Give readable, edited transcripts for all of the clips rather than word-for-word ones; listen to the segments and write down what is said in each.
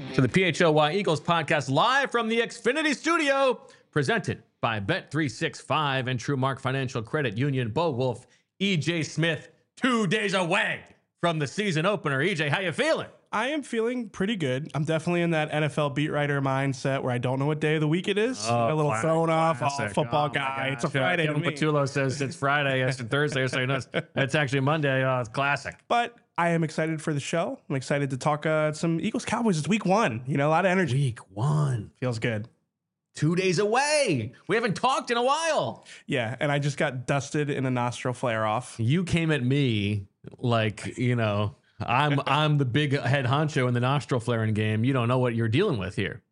to the PHLY Eagles podcast live from the Xfinity studio, presented by Bet365 and TrueMark Financial Credit Union. Bo Wolf, EJ Smith, 2 days away from the season opener. EJ, how you feeling? I am feeling pretty good. I'm definitely in that NFL beat writer mindset where I don't know what day of the week it is. A little thrown off, football guy. It's a Friday to me. Patullo says it's Friday, it's Thursday, so it's actually Monday. It's classic. But I am excited for the show. I'm excited to talk some Eagles Cowboys. It's week one. You know, a lot of energy. Week one. Feels good. 2 days away. We haven't talked in a while. Yeah, and I just got dusted in a nostril flare off. You came at me like, you know, I'm the big head honcho in the nostril flaring game. You don't know what you're dealing with here.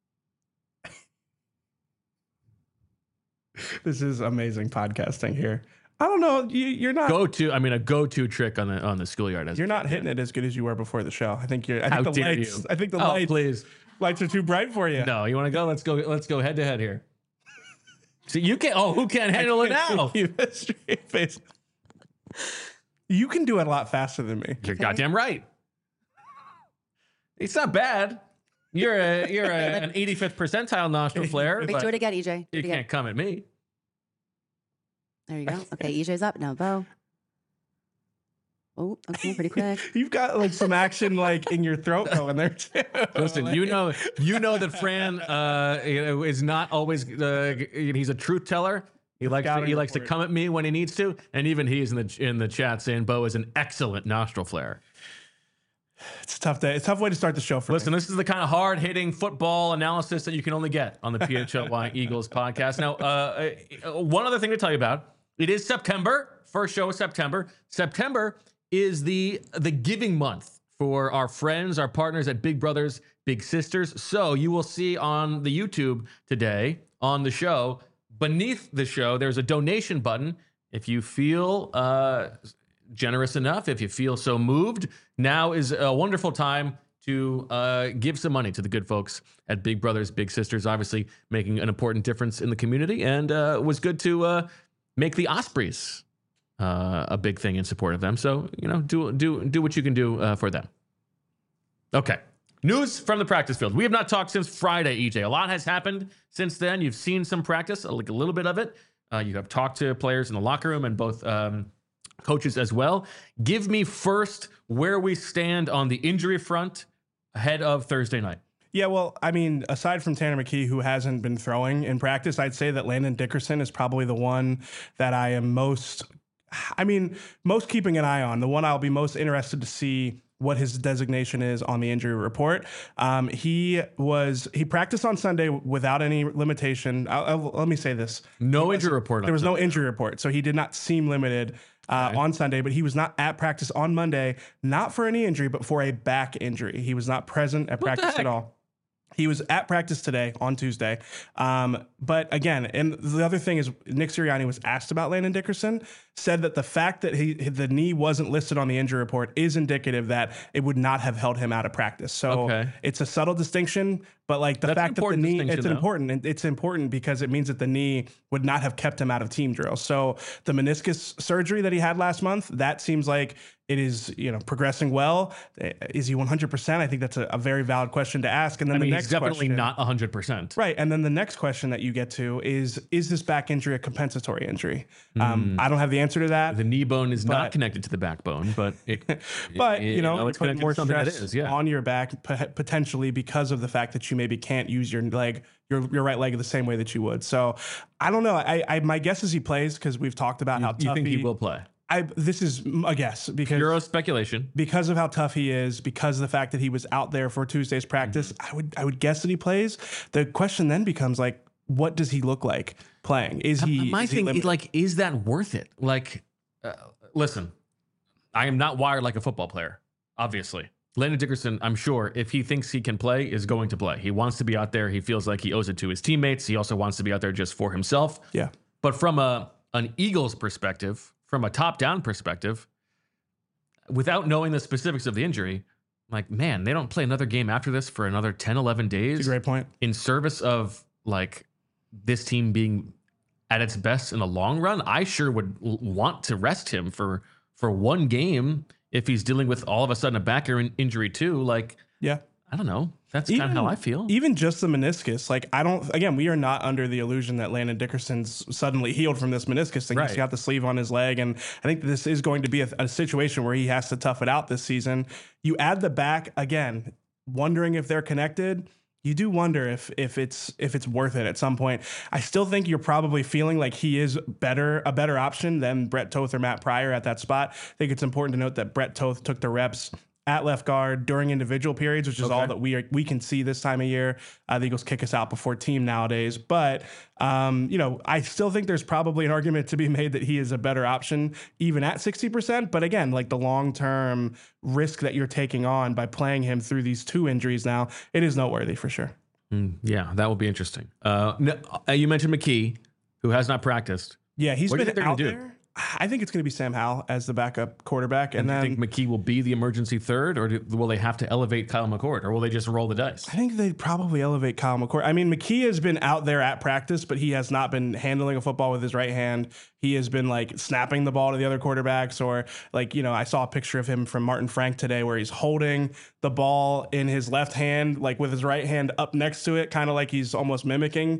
This is amazing podcasting here. I don't know. You're not a go-to trick on the schoolyard. You're not hitting it as good as you were before the show. I think you're. I think How the dare lights. you. I think the lights are too bright for you. No, you want to go? Let's go head to head here. So you can't. Oh, who can't handle it now? Straight face. You can do it a lot faster than me. You're goddamn right. It's not bad. You're an 85th percentile nostril flare. Wait, do it again, EJ. You can't come at me. There you go. Okay, EJ's up now. Bo. Oh, okay, pretty quick. You've got like some action like in your throat going there too. Listen, you know that Fran is not always. He's a truth teller. He likes to come at me when he needs to, and even he is in the chat saying Bo is an excellent nostril flare. It's a tough day. It's a tough way to start the show for Listen, me. this is the kind of hard-hitting football analysis that you can only get on the PHLY Eagles podcast. Now, one other thing to tell you about. It is September. First show of September. September is the giving month for our friends, our partners at Big Brothers Big Sisters. So you will see on the YouTube today, on the show, beneath the show, there's a donation button. If you feel generous enough, if you feel so moved, now is a wonderful time to give some money to the good folks at Big Brothers Big Sisters, obviously making an important difference in the community, and it was good to make the Ospreys a big thing in support of them. So, you know, do what you can do for them. Okay. News from the practice field. We have not talked since Friday, EJ. A lot has happened since then. You've seen some practice, like a little bit of it. You have talked to players in the locker room and both coaches as well. Give me first where we stand on the injury front ahead of Thursday night. Yeah, well, I mean, aside from Tanner McKee, who hasn't been throwing in practice, I'd say that Landon Dickerson is probably the one that I am most keeping an eye on, the one I'll be most interested to see what his designation is on the injury report. He practiced on Sunday without any limitation. Let me say this. No injury report. There was no injury report, so he did not seem limited on Sunday, but he was not at practice on Monday, not for any injury, but for a back injury. He was not present at practice at all. He was at practice today on Tuesday. But again, and the other thing is Nick Sirianni was asked about Landon Dickerson, said that the fact that the knee wasn't listed on the injury report is indicative that it would not have held him out of practice. So It's a subtle distinction, but like the fact that the knee, it's important. And it's important because it means that the knee would not have kept him out of team drills. So the meniscus surgery that he had last month, that seems like it is, progressing well. Is he 100%? I think that's a very valid question to ask. And then the next he's definitely question, not 100%. Right. And then the next question that you get to is this back injury a compensatory injury? I don't have the answer to that. The knee bone is not connected to the backbone, but it's it's putting more stress on on your back potentially because of the fact that you maybe can't use your leg, your right leg the same way that you would. So I don't know. My guess is he plays because we've talked about how tough you think he will play. This is a guess because pure speculation. Because of how tough he is, because of the fact that he was out there for Tuesday's practice, I would guess that he plays. The question then becomes like, what does he look like playing? Is that worth it? Like, listen, I am not wired like a football player, obviously. Landon Dickerson, I'm sure, if he thinks he can play, is going to play. He wants to be out there. He feels like he owes it to his teammates. He also wants to be out there just for himself. Yeah. But from an Eagles perspective, from a top-down perspective, without knowing the specifics of the injury, like, man, they don't play another game after this for another 10, 11 days. That's a great point. In service of, like, this team being at its best in the long run. I sure would want to rest him for one game if he's dealing with all of a sudden a back injury too. Like, yeah, I don't know. That's kind of how I feel. Even just the meniscus, like we are not under the illusion that Landon Dickerson's suddenly healed from this meniscus thing. Right. He's got the sleeve on his leg, and I think this is going to be a situation where he has to tough it out this season. You add the back again, wondering if they're connected. You do wonder if it's worth it at some point. I still think you're probably feeling like he is a better option than Brett Toth or Matt Pryor at that spot. I think it's important to note that Brett Toth took the reps at left guard during individual periods, which is all that we can see this time of year. The Eagles kick us out before team nowadays. But, I still think there's probably an argument to be made that he is a better option even at 60%. But again, like the long-term risk that you're taking on by playing him through these 2 injuries now, it is noteworthy for sure. Yeah, that will be interesting. You mentioned McKee, who has not practiced. Yeah, he's What do you been think they're out gonna do? there. I think it's going to be Sam Howell as the backup quarterback. And Do you then think McKee will be the emergency third, or will they have to elevate Kyle McCord, or will they just roll the dice? I think they'd probably elevate Kyle McCord. I mean, McKee has been out there at practice, but he has not been handling a football with his right hand. He has been like snapping the ball to the other quarterbacks, or like, I saw a picture of him from Martin Frank today where he's holding the ball in his left hand, like with his right hand up next to it, kind of like he's almost mimicking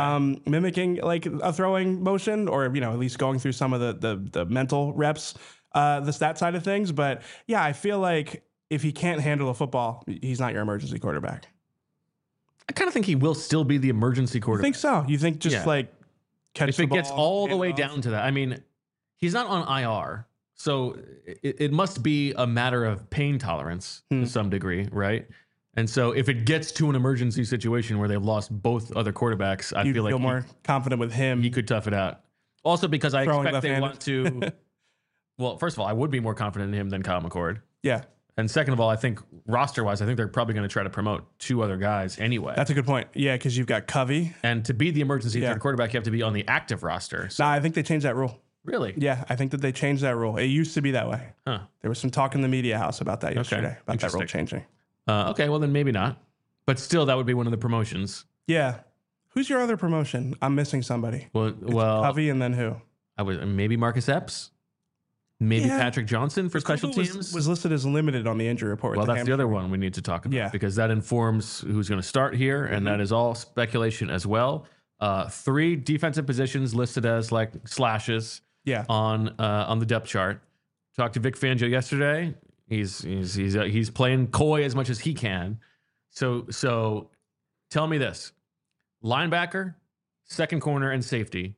like a throwing motion, or, at least going through some of the mental reps, the stat side of things. But yeah, I feel like if he can't handle a football, he's not your emergency quarterback. I kind of think he will still be the emergency I quarterback. think so. You think just Yeah. like catch If the it ball, gets all the hand way off? down to that. I mean, he's not on IR, so it must be a matter of pain tolerance to some degree, right? And so if it gets to an emergency situation where they've lost both other quarterbacks, I you feel like more confident with him. he could tough it out. Also, because I Throwing expect they left-handed. want to. Well, first of all, I would be more confident in him than Kyle McCord. Yeah, And second of all, I think roster-wise, I think they're probably going to try to promote 2 other guys anyway. that's a good point. Yeah, because you've got Covey. And to be the emergency Yeah. third quarterback, you have to be on the active roster. So, Nah, I think they changed that rule. really? Yeah, I think that they changed that rule. It used to be that way. Huh. There was some talk in the media house about that yesterday, about that rule Interesting. changing. Okay, well then maybe not. But still, that would be one of the promotions. Yeah. Who's your other promotion? I'm missing somebody. Well, Covey and then who? I was maybe Marcus Epps, maybe Yeah. Patrick Johnson for special Cooper teams. was listed as limited on the injury report. Well, with that's the hamstring. other one we need to talk about, Yeah. because that informs who's going to start here, and that is all speculation as well. 3 defensive positions listed as like slashes Yeah. on the depth chart. Talked to Vic Fangio yesterday. He's playing coy as much as he can. So tell me this: linebacker, second corner, and safety.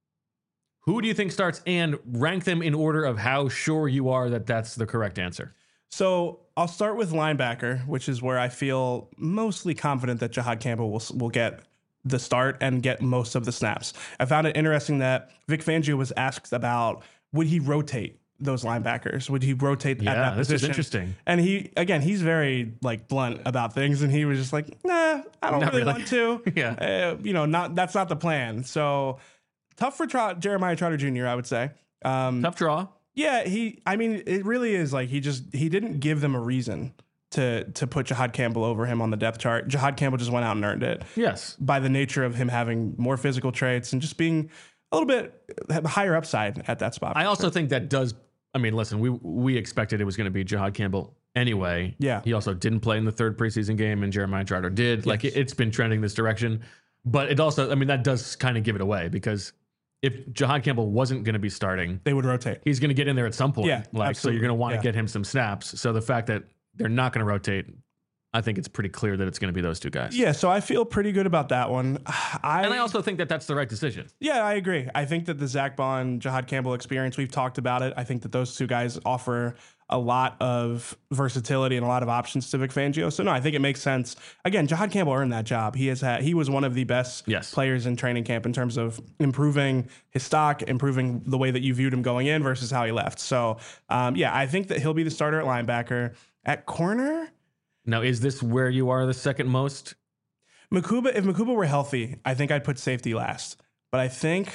Who do you think starts, and rank them in order of how sure you are that that's the correct answer? So I'll start with linebacker, which is where I feel mostly confident that Jahad Campbell will get the start and get most of the snaps. I found it interesting that Vic Fangio was asked about would he rotate those linebackers? Would he rotate at that this position? is interesting. And he's very like blunt about things, and he was just like, nah, I don't Not really really. want to. Yeah. That's not the plan. So tough for Jeremiah Trotter Jr., I would say. Tough draw. Yeah, it really is like he didn't give them a reason to put Jahad Campbell over him on the depth chart. Jahad Campbell just went out and earned it Yes. by the nature of him having more physical traits and just being a little bit higher upside at that spot. I also think that does. I mean, listen, we expected it was going to be Jahad Campbell anyway. Yeah. He also didn't play in the 3rd preseason game, and Jeremiah Trotter did. Like it's been trending this direction, but it also, I mean, that does kind of give it away, because if Jahad Campbell wasn't going to be starting, They would rotate. he's going to get in there at some point. Yeah, so absolutely. you're going to want to Yeah. get him some snaps. So the fact that they're not going to rotate, I think it's pretty clear that it's going to be those 2 guys. Yeah, so I feel pretty good about that one. And I also think that that's the right decision. Yeah, I agree. I think that the Zach Bond, Jahad Campbell experience, we've talked about it. I think that those 2 guys offer a lot of versatility and a lot of options to Vic Fangio. So no, I think it makes sense. Again, Jahad Campbell earned that job. He was one of the best Yes. players in training camp in terms of improving his stock, improving the way that you viewed him going in versus how he left. So I think that he'll be the starter at linebacker. At corner, Now, is this where you are the second most? if Makuba were healthy, I think I'd put safety last. But I think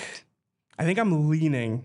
I'm leaning.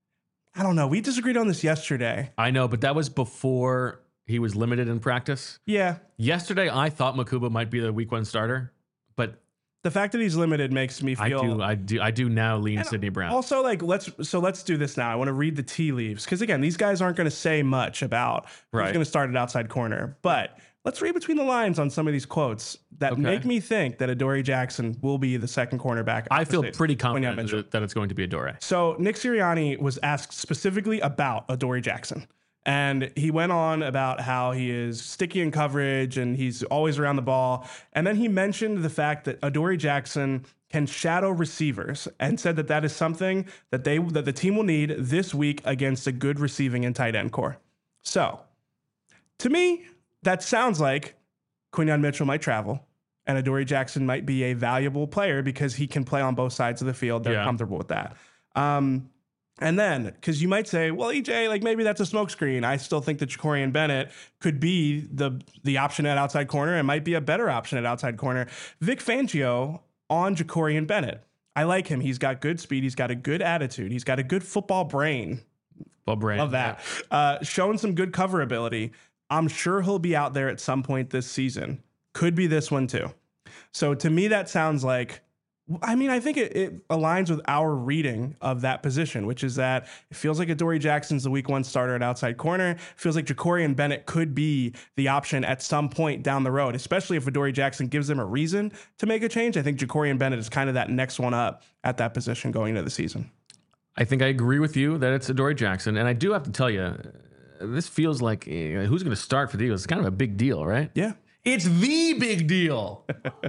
I don't know. We disagreed on this yesterday. I know, but that was before he was limited in practice. Yeah. Yesterday, I thought Makuba might be the week 1 starter, but The fact that he's limited makes me feel. I do now lean And Sidney Brown. Also, like let's do this now. I want to read the tea leaves because again, these guys aren't going to say much about who's Right. going to start at outside corner. But let's read between the lines on some of these quotes that make me think that Adoree Jackson will be the second cornerback. I feel pretty confident that it's going to be Adoree. So Nick Sirianni was asked specifically about Adoree Jackson. And he went on about how he is sticky in coverage and he's always around the ball. And then he mentioned the fact that Adoree Jackson can shadow receivers and said that that is something that the team will need this week against a good receiving and tight end core. So to me, that sounds like Quinyon Mitchell might travel and Adoree Jackson might be a valuable player because he can play on both sides of the field. They're comfortable with that. And then, because you might say, well, EJ, like maybe that's a smokescreen. I still think that Jacorian Bennett could be the option at outside corner and might be a better option at outside corner. Vic Fangio on Jacorian Bennett. I like him. He's got good speed. He's got a good attitude. He's got a good football brain. Love that. Showing some good cover ability. I'm sure he'll be out there at some point this season. Could be this one too. So to me, that sounds like, I mean, I think it aligns with our reading of that position, which is that it feels like Adoree Jackson's the week 1 starter at outside corner. It feels like Jacorian Bennett could be the option at some point down the road, especially if Adoree Jackson gives them a reason to make a change. I think Jacorian Bennett is kind of that next one up at that position going into the season. I think I agree with you that it's Adoree Jackson. And I do have to tell you, this feels like who's going to start for the Eagles? It's kind of a big deal, right? Yeah. It's the big deal.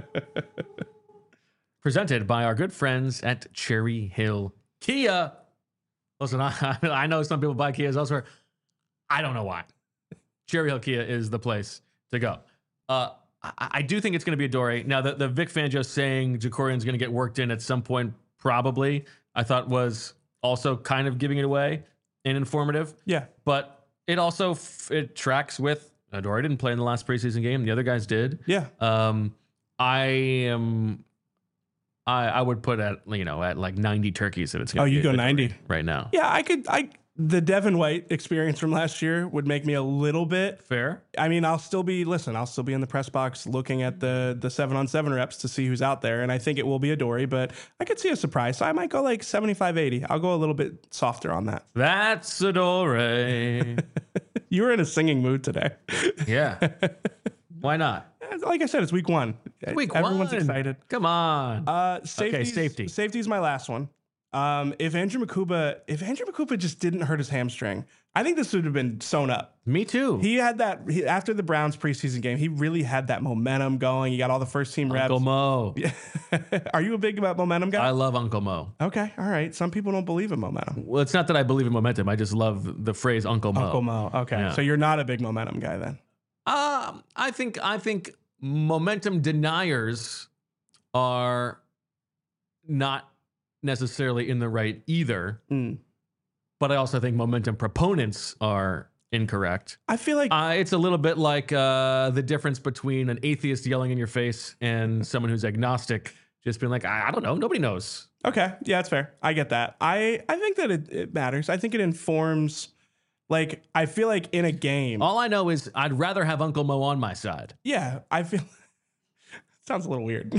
Presented by our good friends at Cherry Hill Kia. Listen, I know some people buy Kias elsewhere. I don't know why. Cherry Hill Kia is the place to go. I do think it's going to be Adoree. Now, the Vic Fangio saying Jacorian's going to get worked in at some point, probably, I thought was also kind of giving it away and informative. Yeah. But it also it tracks with Adoree didn't play in the last preseason game. The other guys did. Yeah. I would put at like 90 turkeys that it's going to be. You go 90 right now. Yeah, the Devin White experience from last year would make me a little bit fair. I mean, I'll still be in the press box looking at the 7-on-7 reps to see who's out there. And I think it will be Adoree, but I could see a surprise. So I might go like 75-80. I'll go a little bit softer on that. That's Adoree. You were in a singing mood today. Yeah. Why not? Like I said, it's week 1. Everyone's excited. Come on. Safety. Safety is my last one. If Andrew Makupa just didn't hurt his hamstring, I think this would have been sewn up. Me too. He had that after the Browns preseason game. He really had that momentum going. He got all the first team reps. Uncle Mo. Are you a big momentum guy? I love Uncle Mo. Okay, all right. Some people don't believe in momentum. Well, it's not that I believe in momentum. I just love the phrase Uncle Mo. Uncle Mo. Okay, yeah. So you're not a big momentum guy then. I think momentum deniers are not necessarily in the right either. But I also think momentum proponents are incorrect. I feel like it's a little bit like the difference between an atheist yelling in your face and someone who's agnostic just being like, I don't know, nobody knows. Okay, yeah, that's fair. I get that. I think that it matters. I think it informs. Like, I feel like in a game. All I know is I'd rather have Uncle Mo on my side. Yeah, I feel. Sounds a little weird.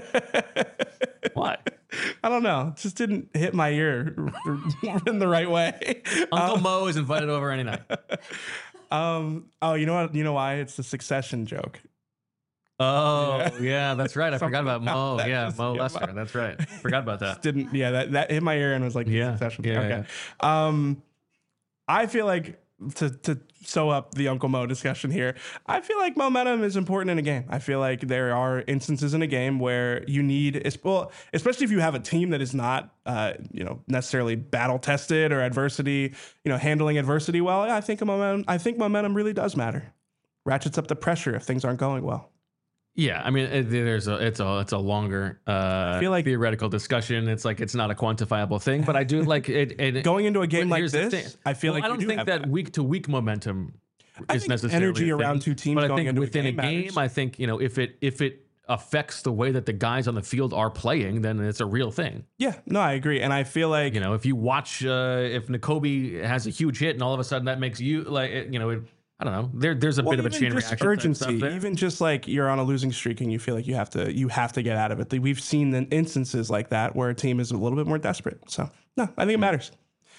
What? I don't know. It just didn't hit my ear in the right way. Uncle Mo is invited over any night. Oh, you know what? You know why? It's the Succession joke. Oh, yeah, that's right. I forgot about Mo. Yeah, Mo Lester. That's right. Forgot about that. That hit my ear and was like, Succession. Yeah, okay. Yeah. I feel like to sew up the Uncle Mo discussion here, I feel like momentum is important in a game. I feel like there are instances in a game where you need, especially if you have a team that is not, necessarily battle tested or handling adversity well. I think momentum really does matter. Ratchets up the pressure if things aren't going well. Yeah, I mean, it's a longer theoretical discussion. It's like it's not a quantifiable thing, but I do like it. Going into a game like this, I feel like I don't think that week to week momentum is necessarily energy around two teams. But going I think into within a game, matters. I think if it affects the way that the guys on the field are playing, then it's a real thing. Yeah, no, I agree, and I feel like if you watch if Nakobe has a huge hit and all of a sudden that makes you I don't know. There's a bit of a chain reaction. Urgency, even just like you're on a losing streak and you feel like you have to get out of it. We've seen instances like that where a team is a little bit more desperate. So no, I think it matters. Okay.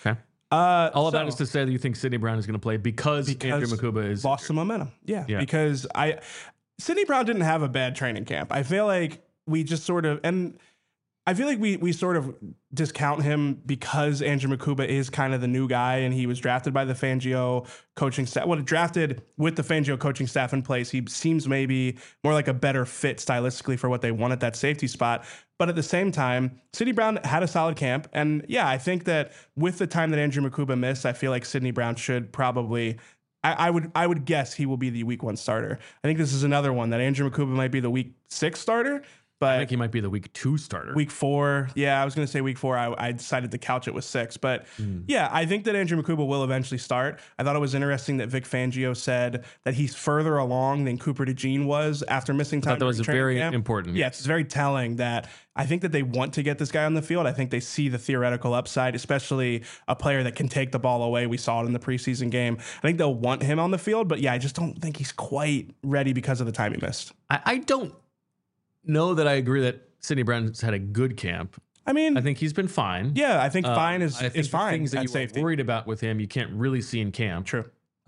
All of that is to say that you think Sidney Brown is going to play because Andrew Makuba is lost some momentum. Yeah, Yeah. because Sidney Brown didn't have a bad training camp. I feel like we just sort of, and I feel like we sort of discount him because Andrew Makuba is kind of the new guy and he was drafted by the Fangio coaching staff. Well, drafted with the Fangio coaching staff in place. He seems maybe more like a better fit stylistically for what they want at that safety spot. But at the same time, Sidney Brown had a solid camp. And yeah, I think that with the time that Andrew Makuba missed, I feel like Sidney Brown should probably, I would guess he will be the week 1 starter. I think this is another one that Andrew Makuba might be the week 6 starter. But I think he might be the week 2 starter. Week 4. Yeah, I was going to say week 4. I decided to couch it with 6. But yeah, I think that Andrew Makuba will eventually start. I thought it was interesting that Vic Fangio said that he's further along than Cooper DeJean was after missing time. That was during very training camp. important. Yeah, it's very telling that I think that they want to get this guy on the field. I think they see the theoretical upside, especially a player that can take the ball away. We saw it in the preseason game. I think they'll want him on the field. But yeah, I just don't think he's quite ready because of the time he missed. I don't know that I agree that Sidney Brown's had a good camp. I mean, I think he's been fine. yeah, I think fine is I think the fine. things that at you safety. were worried about with him, you can't really see in camp. True.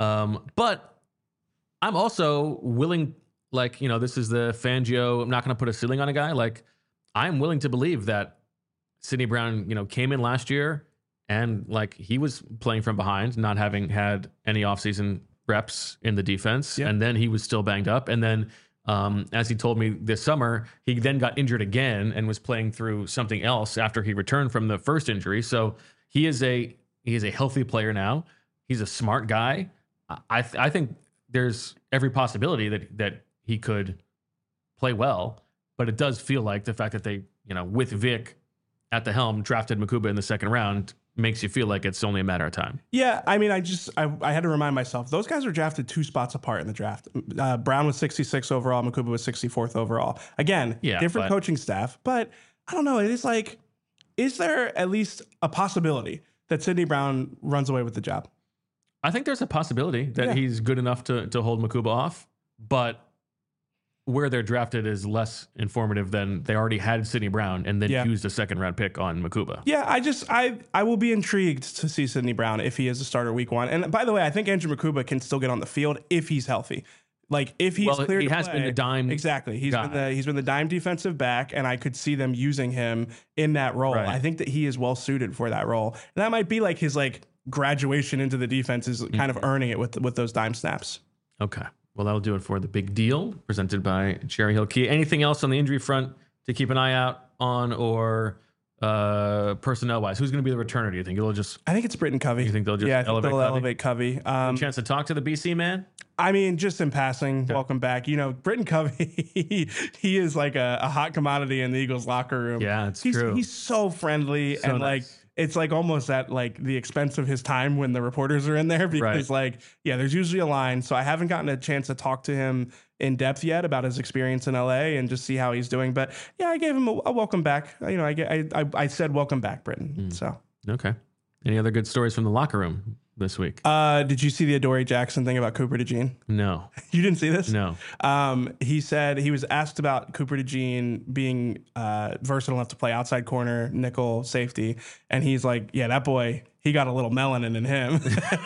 But I'm also willing, like, this is the Fangio. I'm not going to put a ceiling on a guy. Like, I'm willing to believe that Sidney Brown, came in last year and like he was playing from behind, not having had any offseason reps in the defense. Yep. And then he was still banged up. And then as he told me this summer, he then got injured again and was playing through something else after he returned from the first injury. So he is a healthy player now. He's a smart guy. I think there's every possibility that he could play well, but it does feel like the fact that they, with Vic at the helm, drafted Makuba in the second round makes you feel like it's only a matter of time. Yeah, I mean, I had to remind myself, those guys were drafted 2 spots apart in the draft. Brown was 66 overall, Makuba was 64th overall. Again, different coaching staff, but I don't know. It is like, is there at least a possibility that Sidney Brown runs away with the job? I think there's a possibility that he's good enough to hold Makuba off, but where they're drafted is less informative than they already had Sidney Brown and then used a second round pick on Makuba. Yeah, I will be intrigued to see Sidney Brown if he is a starter week 1. And by the way, I think Andrew Makuba can still get on the field if he's healthy. Like if he's clear he to has play, been the dime. Exactly. He's been the dime defensive back, and I could see them using him in that role. Right. I think that he is well suited for that role. And that might be like his graduation into the defense is kind of earning it with those dime snaps. Okay. Well, that'll do it for the big deal presented by Cherry Hill Kia. Anything else on the injury front to keep an eye out on, or personnel wise? Who's going to be the returner? Do you think I think it's Britton Covey. You think they'll just elevate Covey? Chance to talk to the BC man? I mean, just in passing, welcome back. Britton Covey, he is like a hot commodity in the Eagles locker room. Yeah, it's true. He's so friendly and nice. It's like almost at the expense of his time when the reporters are in there because there's usually a line. So I haven't gotten a chance to talk to him in depth yet about his experience in LA and just see how he's doing. But yeah, I gave him a welcome back. I said welcome back, Britton. So okay. Any other good stories from the locker room this week? Did you see the Adoree Jackson thing about Cooper DeJean? No. You didn't see this? No. He said he was asked about Cooper DeJean being versatile enough to play outside corner, nickel, safety, and he's like, yeah, that boy, he got a little melanin in him.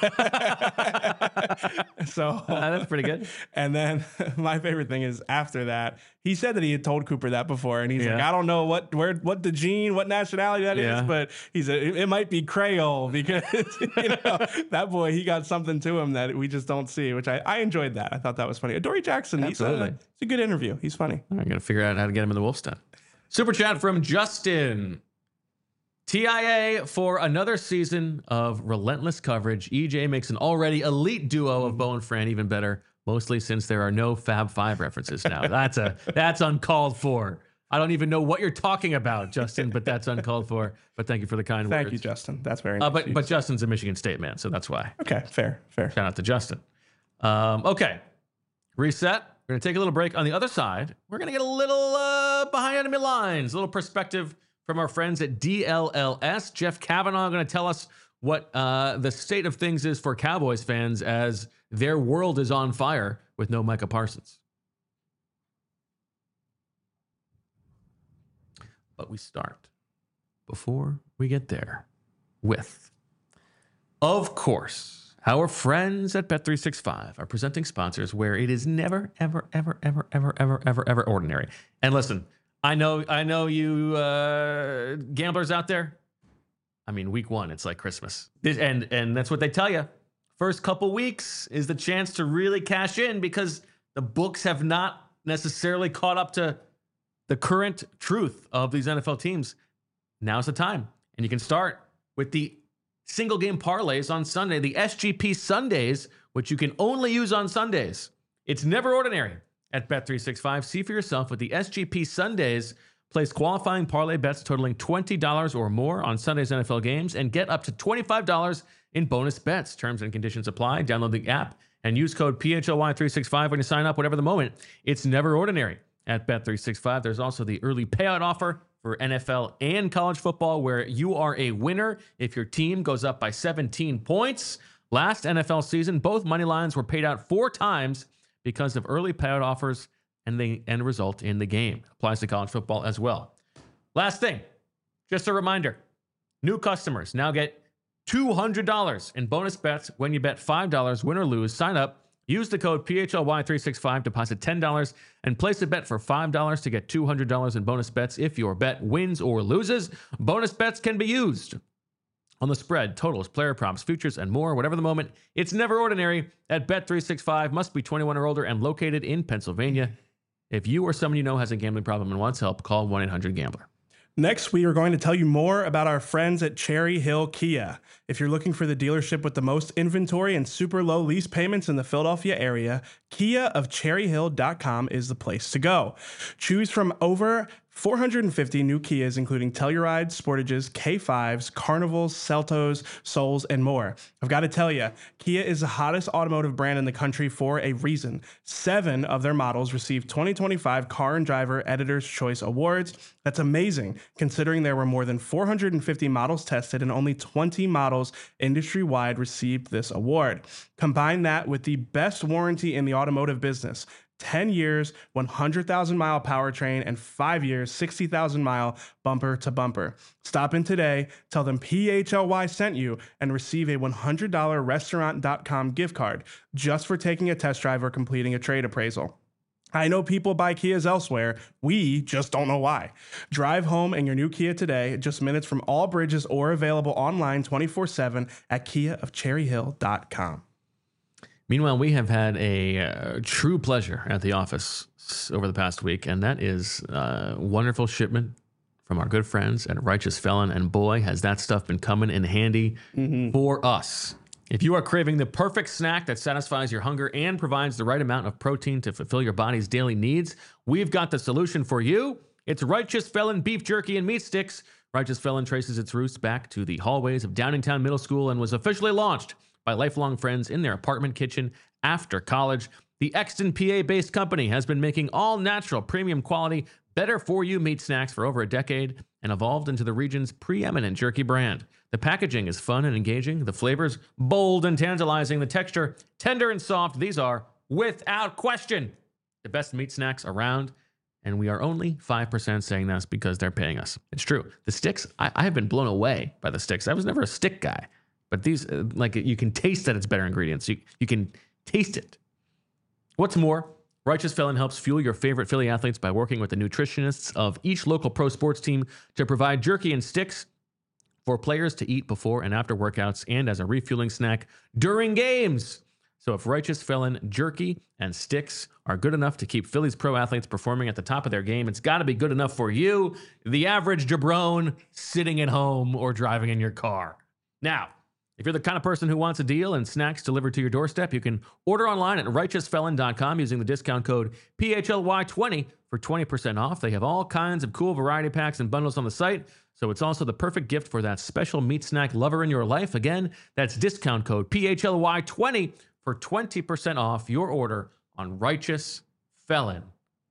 So that's pretty good. And then my favorite thing is after that, he said that he had told Cooper that before, and he's like, I don't know what DeJean, what nationality that is, but he said it might be Creole because that boy, he got something to him that we just don't see, which I enjoyed that. I thought that was funny. Adoree Jackson, it's a good interview. He's funny. I got to figure out how to get him in the Wolf's Den. Super chat from Justin. TIA for another season of relentless coverage. EJ makes an already elite duo of Bo and Fran even better, mostly since there are no Fab Five references now. That's uncalled for. I don't even know what you're talking about, Justin, but that's uncalled for. But thank you for the kind words. Thank you, Justin. That's very nice. But Justin's a Michigan State man, so that's why. Okay, fair. Shout out to Justin. Okay, reset. We're going to take a little break. On the other side, we're going to get a little behind enemy lines, a little perspective from our friends at DLLS. Jeff Kavanaugh going to tell us what the state of things is for Cowboys fans as their world is on fire with no Micah Parsons. But we start, before we get there, with Of course, our friends at Bet365 are presenting sponsors where it is never, ever, ever, ever, ever, ever, ever, ever ordinary. And listen, I know you gamblers out there. I mean, week one, it's like Christmas. And that's what they tell you. First couple weeks is the chance to really cash in because the books have not necessarily caught up to the current truth of these NFL teams. Now's the time. And you can start with the single game parlays on Sunday, the SGP Sundays, which you can only use on Sundays. It's never ordinary at Bet365. See for yourself with the SGP Sundays. Place qualifying parlay bets totaling $20 or more on Sunday's NFL games and get up to $25 in bonus bets. Terms and conditions apply. Download the app and use code PHLY365 when you sign up. Whatever the moment, it's never ordinary at Bet365. There's also the early payout offer for NFL and college football where you are a winner if your team goes up by 17 points. Last NFL season, both money lines were paid out 4 times because of early payout offers and the end result in the game. Applies to college football as well. Last thing, just a reminder, new customers now get $200 in bonus bets when you bet $5, win or lose. Sign up, use the code PHLY365, deposit $10, and place a bet for $5 to get $200 in bonus bets if your bet wins or loses. Bonus bets can be used on the spread, totals, player props, futures, and more. Whatever the moment, it's never ordinary at Bet365. Must be 21 or older and located in Pennsylvania. If you or someone you know has a gambling problem and wants help, call 1-800-GAMBLER. Next, we are going to tell you more about our friends at Cherry Hill Kia. If you're looking for the dealership with the most inventory and super low lease payments in the Philadelphia area, Kia of CherryHill.com is the place to go. Choose from over 450 new Kias, including Tellurides, Sportages, K5s, Carnivals, Seltos, Souls, and more. I've got to tell you, Kia is the hottest automotive brand in the country for a reason. 7 of their models received 2025 Car and Driver Editor's Choice Awards. That's amazing, considering there were more than 450 models tested and only 20 models industry-wide received this award. Combine that with the best warranty in the automotive business. 10 years, 100,000-mile powertrain, and 5 years, 60,000-mile bumper-to-bumper. Stop in today, tell them PHLY sent you, and receive a $100 Restaurant.com gift card just for taking a test drive or completing a trade appraisal. I know people buy Kias elsewhere. We just don't know why. Drive home in your new Kia today, just minutes from all bridges or available online 24/7 at KiaofCherryHill.com. Meanwhile, we have had a true pleasure at the office over the past week, and that is a wonderful shipment from our good friends at Righteous Felon. And boy, has that stuff been coming in handy for us. If you are craving the perfect snack that satisfies your hunger and provides the right amount of protein to fulfill your body's daily needs, we've got the solution for you. It's Righteous Felon beef jerky and meat sticks. Righteous Felon traces its roots back to the hallways of Downingtown Middle School and was officially launched by lifelong friends in their apartment kitchen after college. The Exton, PA-based company has been making all-natural, premium quality, better-for-you meat snacks for over a decade and evolved into the region's preeminent jerky brand. The packaging is fun and engaging, the flavors bold and tantalizing, the texture tender and soft. These are, without question, the best meat snacks around, and we are only 5% saying this because they're paying us. It's true. The sticks, I have been blown away by the sticks. I was never a stick guy. But these, like, you can taste that it's better ingredients. You can taste it. What's more, Righteous Felon helps fuel your favorite Philly athletes by working with the nutritionists of each local pro sports team to provide jerky and sticks for players to eat before and after workouts and as a refueling snack during games. So if Righteous Felon jerky and sticks are good enough to keep Philly's pro athletes performing at the top of their game, it's got to be good enough for you, the average jabron sitting at home or driving in your car. Now, if you're the kind of person who wants a deal and snacks delivered to your doorstep, you can order online at righteousfelon.com using the discount code PHLY20 for 20% off. They have all kinds of cool variety packs and bundles on the site, so it's also the perfect gift for that special meat snack lover in your life. Again, that's discount code PHLY20 for 20% off your order on righteousfelon.com.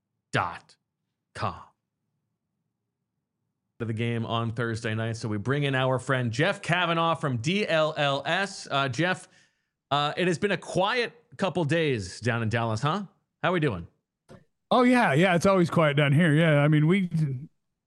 Of the game on Thursday night. So we bring in our friend Jeff Kavanaugh from DLLS. Jeff, it has been a quiet couple days down in Dallas, huh? How are we doing? Oh, yeah. It's always quiet down here. Yeah. I mean,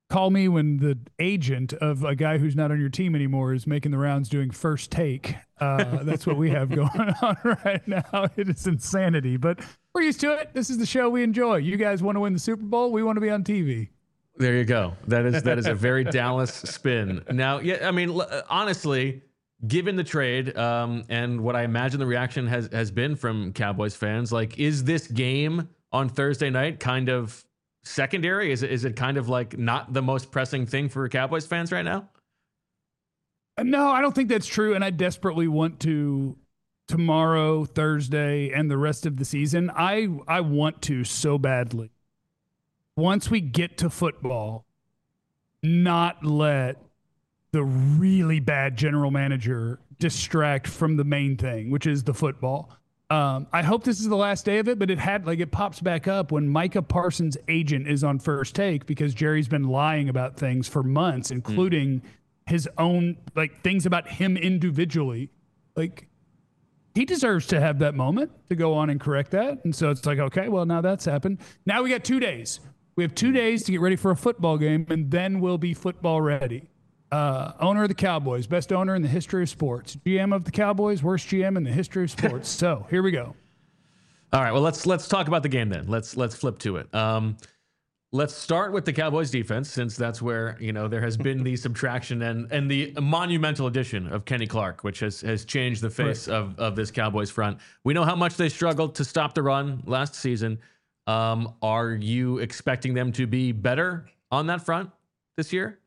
call me when the agent of a guy who's not on your team anymore is making the rounds doing First Take. That's what we have going on right now. It is insanity, but we're used to it. This is the show we enjoy. You guys want to win the Super Bowl. We want to be on TV. There you go. That is a very Dallas spin. Now, yeah, I mean, honestly, given the trade and what I imagine the reaction has been from Cowboys fans, like, is this game on Thursday night kind of secondary? Is it kind of like not the most pressing thing for Cowboys fans right now? No, I don't think that's true. And I desperately want to tomorrow, Thursday, and the rest of the season. I want to so badly. Once we get to football, not let the really bad general manager distract from the main thing, which is the football. I hope this is the last day of it, but it pops back up when Micah Parsons' agent is on First Take because Jerry's been lying about things for months, including his own, like, things about him individually. Like, he deserves to have that moment to go on and correct that. And so it's like, okay, well, now that's happened. Now we got 2 days. We have 2 days to get ready for a football game, and then we'll be football ready. Owner of the Cowboys, best owner in the history of sports. GM of the Cowboys, worst GM in the history of sports. So here we go. All right. Well, let's talk about the game then. Let's flip to it. Let's start with the Cowboys defense, since that's where there has been the subtraction and the monumental addition of Kenny Clark, which has changed the face of this Cowboys front. We know how much they struggled to stop the run last season. Are you expecting them to be better on that front this year?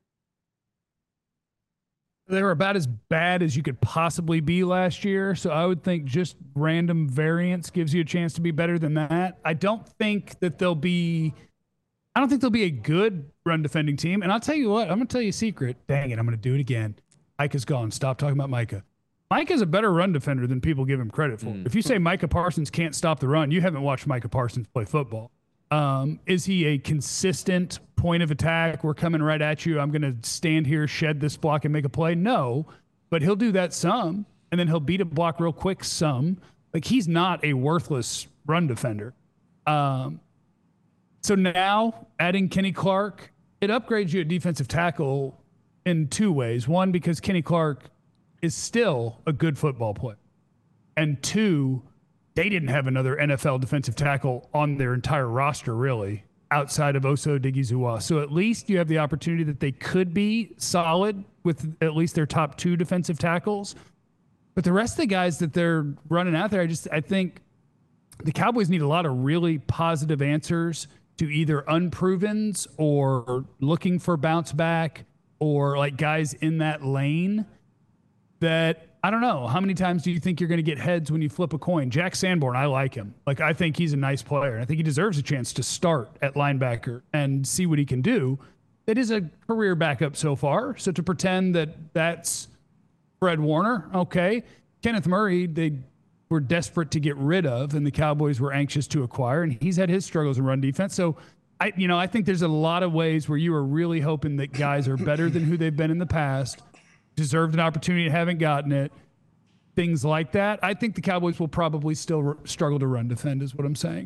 They were about as bad as you could possibly be last year. So I would think just random variance gives you a chance to be better than that. I don't think they'll be a good run defending team. And I'll tell you what, I'm going to tell you a secret. Dang it, I'm going to do it again. Micah's gone. Stop talking about Micah. Micah's a better run defender than people give him credit for. If you say Micah Parsons can't stop the run, you haven't watched Micah Parsons play football. Is he a consistent point of attack? We're coming right at you. I'm going to stand here, shed this block, and make a play. No, but he'll do that some, and then he'll beat a block real quick some. Like, he's not a worthless run defender. So now adding Kenny Clark, it upgrades you at defensive tackle in 2 ways. One, because Kenny Clark is still a good football player. And 2, they didn't have another NFL defensive tackle on their entire roster, really, outside of Osa Odighizuwa. So at least you have the opportunity that they could be solid with at least their top 2 defensive tackles. But the rest of the guys that they're running out there, I think the Cowboys need a lot of really positive answers to either unprovens or looking for bounce back or like guys in that lane that, I don't know, how many times do you think you're going to get heads when you flip a coin? Jack Sanborn, I like him. Like, I think he's a nice player. I think he deserves a chance to start at linebacker and see what he can do. It is a career backup so far. So to pretend that that's Fred Warner, okay. Kenneth Murray, they were desperate to get rid of, and the Cowboys were anxious to acquire, and he's had his struggles in run defense. So I think there's a lot of ways where you are really hoping that guys are better than who they've been in the past, deserved an opportunity and haven't gotten it, things like that. I think the Cowboys will probably still struggle to run defend is what I'm saying.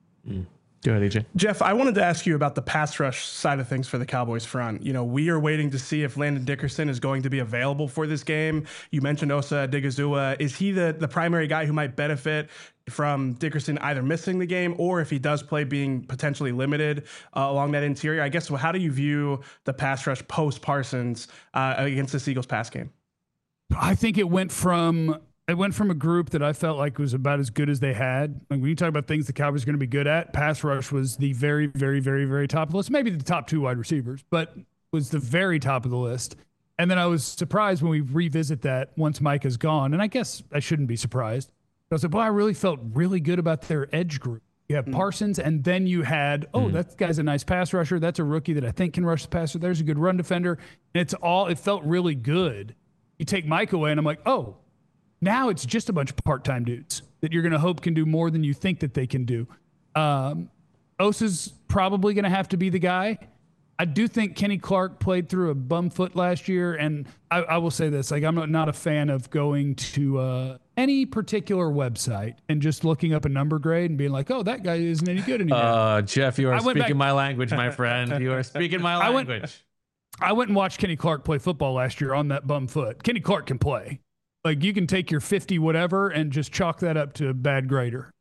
Go ahead, AJ. Jeff, I wanted to ask you about the pass rush side of things for the Cowboys front. We are waiting to see if Landon Dickerson is going to be available for this game. You mentioned Osa Odighizuwa. Is he the primary guy who might benefit from Dickerson either missing the game or if he does play being potentially limited along that interior? I guess, how do you view the pass rush post Parsons against this Eagles pass game? I think it went from a group that I felt like was about as good as they had. Like, when you talk about things the Cowboys are going to be good at, pass rush was the very, very, very, very top of the list. Maybe the top 2 wide receivers, but was the very top of the list. And then I was surprised when we revisit that once Micah's gone. And I guess I shouldn't be surprised. I was like, boy, I really felt really good about their edge group. You have Parsons, and then you had, that guy's a nice pass rusher. That's a rookie that I think can rush the passer. There's a good run defender. And it felt really good. You take Mike away, and I'm like, oh, now it's just a bunch of part-time dudes that you're going to hope can do more than you think that they can do. Osa's probably going to have to be the guy. I do think Kenny Clark played through a bum foot last year, and I will say this: like, I'm not a fan of going to any particular website and just looking up a number grade and being like, "Oh, that guy isn't any good anymore." Jeff, you are speaking my language, my friend. You are speaking my language. I went and watched Kenny Clark play football last year on that bum foot. Kenny Clark can play. Like, you can take your 50 whatever and just chalk that up to a bad grader.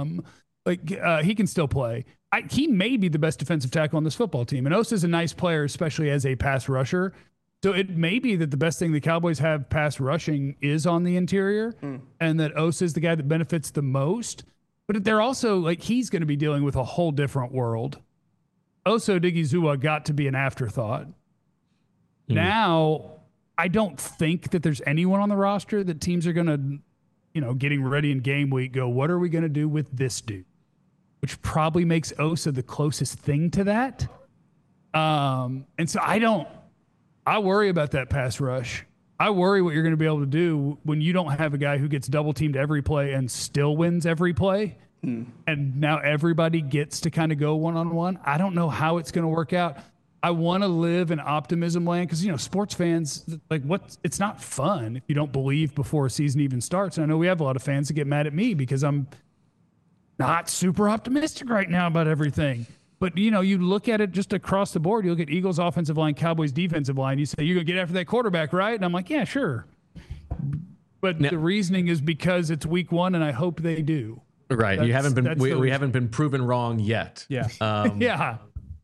He can still play. He may be the best defensive tackle on this football team. And Osa's a nice player, especially as a pass rusher. So it may be that the best thing the Cowboys have pass rushing is on the interior, and that Osa is the guy that benefits the most. But they're also, like, he's going to be dealing with a whole different world. Osa Odighizuwa got to be an afterthought. Now, I don't think that there's anyone on the roster that teams are going to, getting ready in game week, go, what are we going to do with this dude? Which probably makes Osa the closest thing to that. And so I worry about that pass rush. I worry what you're going to be able to do when you don't have a guy who gets double teamed every play and still wins every play. And now everybody gets to kind of go one-on-one. I don't know how it's going to work out. I want to live in optimism land because, sports fans, like, it's not fun if you don't believe before a season even starts. And I know we have a lot of fans that get mad at me because I'm not super optimistic right now about everything. But, you look at it just across the board. You look at Eagles offensive line, Cowboys defensive line. You say, you're going to get after that quarterback, right? And I'm like, yeah, sure. But the reasoning is because it's week 1, and I hope they do. Right. We haven't been proven wrong yet. Yeah. Yeah.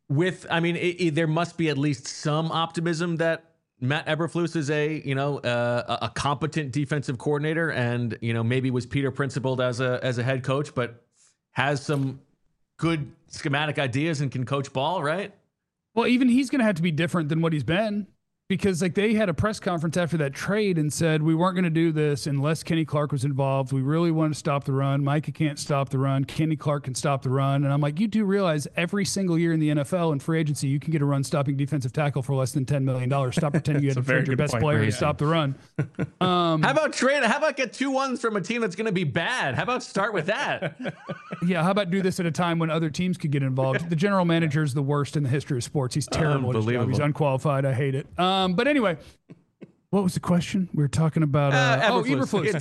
There must be at least some optimism that Matt Eberflus is a competent defensive coordinator, and maybe was Peter principled as a head coach, but has some good schematic ideas and can coach ball, right? Well, even he's going to have to be different than what he's been. Because they had a press conference after that trade and said, we weren't going to do this unless Kenny Clark was involved. We really want to stop the run. Micah can't stop the run. Kenny Clark can stop the run. And I'm like, you do realize every single year in the NFL and free agency, you can get a run-stopping defensive tackle for less than $10 million. Stop pretending you had to trade your best player to stop the run. How about get 2 ones from a team that's going to be bad? How about start with that? Yeah, how about do this at a time when other teams could get involved? The general manager is the worst in the history of sports. He's terrible at his job. He's unqualified. I hate it. But anyway, what was the question? We were talking about Eberflus.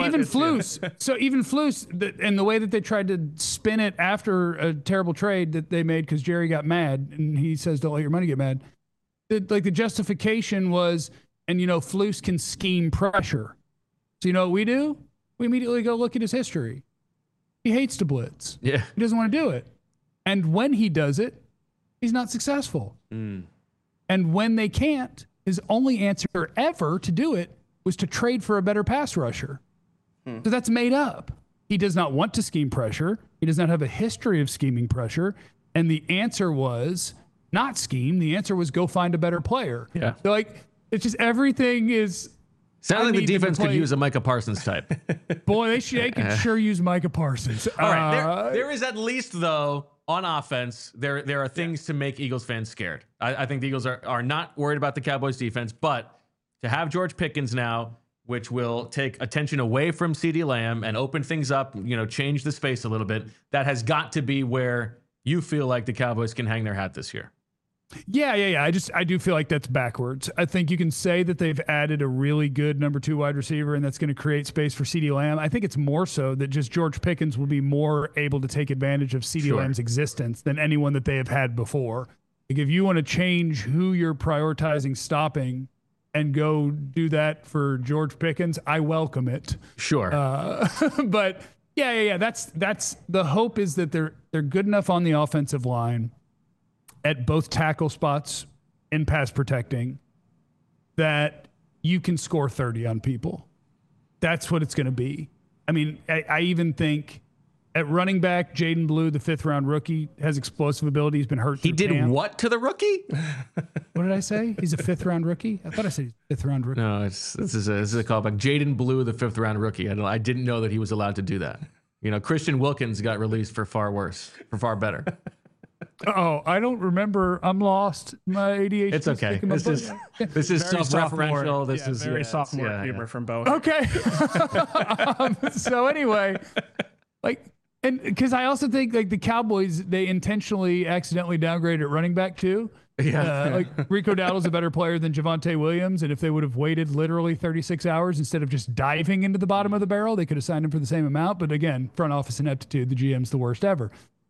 So even Flus, and the way that they tried to spin it after a terrible trade that they made because Jerry got mad, and he says, "Don't let your money get mad." The justification was, and Flus can scheme pressure. So what we do? We immediately go look at his history. He hates to blitz. Yeah, he doesn't want to do it, and when he does it, he's not successful. And when they can't, his only answer ever to do it was to trade for a better pass rusher. So that's made up. He does not want to scheme pressure. He does not have a history of scheming pressure. And the answer was not scheme. The answer was go find a better player. Yeah. So it's just everything is. Sounds like the defense could use a Micah Parsons type. Boy, they could sure use Micah Parsons. All right. There is at least, though, on offense, there are things to make Eagles fans scared. I think the Eagles are not worried about the Cowboys defense, but to have George Pickens now, which will take attention away from CeeDee Lamb and open things up, change the space a little bit, that has got to be where you feel like the Cowboys can hang their hat this year. Yeah. I do feel like that's backwards. I think you can say that they've added a really good number 2 wide receiver, and that's going to create space for CeeDee Lamb. I think it's more so that just George Pickens will be more able to take advantage of CeeDee Lamb's existence than anyone that they have had before. Like, if you want to change who you're prioritizing stopping and go do that for George Pickens, I welcome it. Sure. But yeah. That's the hope, is that they're good enough on the offensive line at both tackle spots in pass protecting that you can score 30 on people. That's what it's going to be. I mean, I even think at running back, Jaden Blue, the 5th-round rookie, has explosive ability. He's been hurt. He did camp. What to the rookie? What did I say? He's a 5th-round rookie? I thought I said he's a 5th-round rookie. No, this is a callback. Jaden Blue, the 5th-round rookie. I didn't know that he was allowed to do that. Christian Wilkins got released for far worse, for far better. Oh, I don't remember. I'm lost. My ADHD. It's okay. This is self-referential. This is very sophomore humor from both. Okay. So anyway, and because I also think the Cowboys, they intentionally accidentally downgraded at running back too. Like Rico Dowdle's a better player than Javonte Williams, and if they would have waited literally 36 hours instead of just diving into the bottom of the barrel, they could have signed him for the same amount. But again, front office ineptitude, the GM's the worst ever.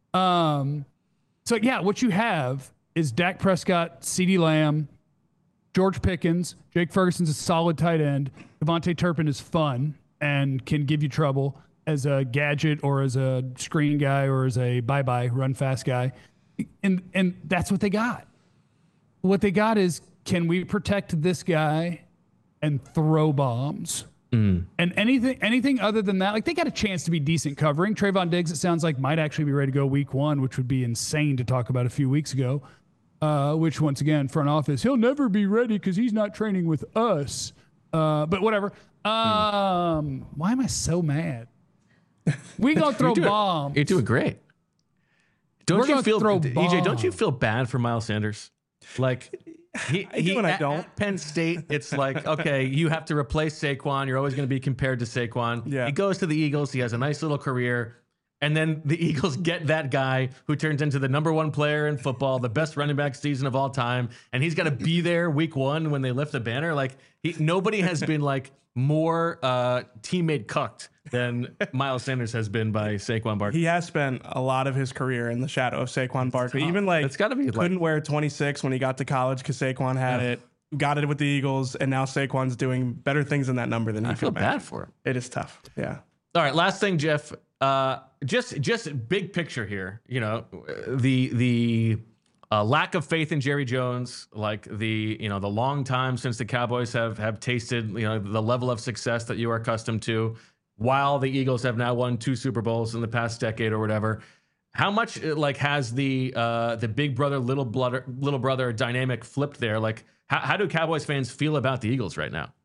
So yeah, what you have is Dak Prescott, CeeDee Lamb, George Pickens, Jake Ferguson's a solid tight end. Devontae Turpin is fun and can give you trouble as a gadget or as a screen guy or as a bye-bye run fast guy. And that's what they got. What they got is, can we protect this guy and throw bombs? And anything other than that, like they got a chance to be decent covering. Trayvon Diggs, it sounds like, might actually be ready to go week 1, which would be insane to talk about a few weeks ago. Which, once again, front office, he'll never be ready because he's not training with us. But whatever. Why am I so mad? We gonna throw bombs. You're doing great. Don't you feel, EJ? Don't you feel bad for Miles Sanders? Like he at Penn State, it's like, okay, you have to replace Saquon. You're always going to be compared to Saquon. Yeah. He goes to the Eagles. He has a nice little career. And then the Eagles get that guy who turns into the #1 player in football, the best running back season of all time. And he's got to be there week 1 when they lift the banner. Like nobody has been like more teammate cucked than Miles Sanders has been by Saquon Barkley. He has spent a lot of his career in the shadow of Saquon Barkley. Even like it's gotta be couldn't wear 26 when he got to college because Saquon had it. Got it with the Eagles, and now Saquon's doing better things in that number than he I feel could bad imagine. for him. It is tough. Yeah. All right, last thing, Jeff. Just big picture here. You know, the lack of faith in Jerry Jones, like the long time since the Cowboys have tasted the level of success that you are accustomed to, while the Eagles have now won 2 Super Bowls in the past decade or whatever. How much like has the big brother little brother dynamic flipped there? Like how do Cowboys fans feel about the Eagles right now?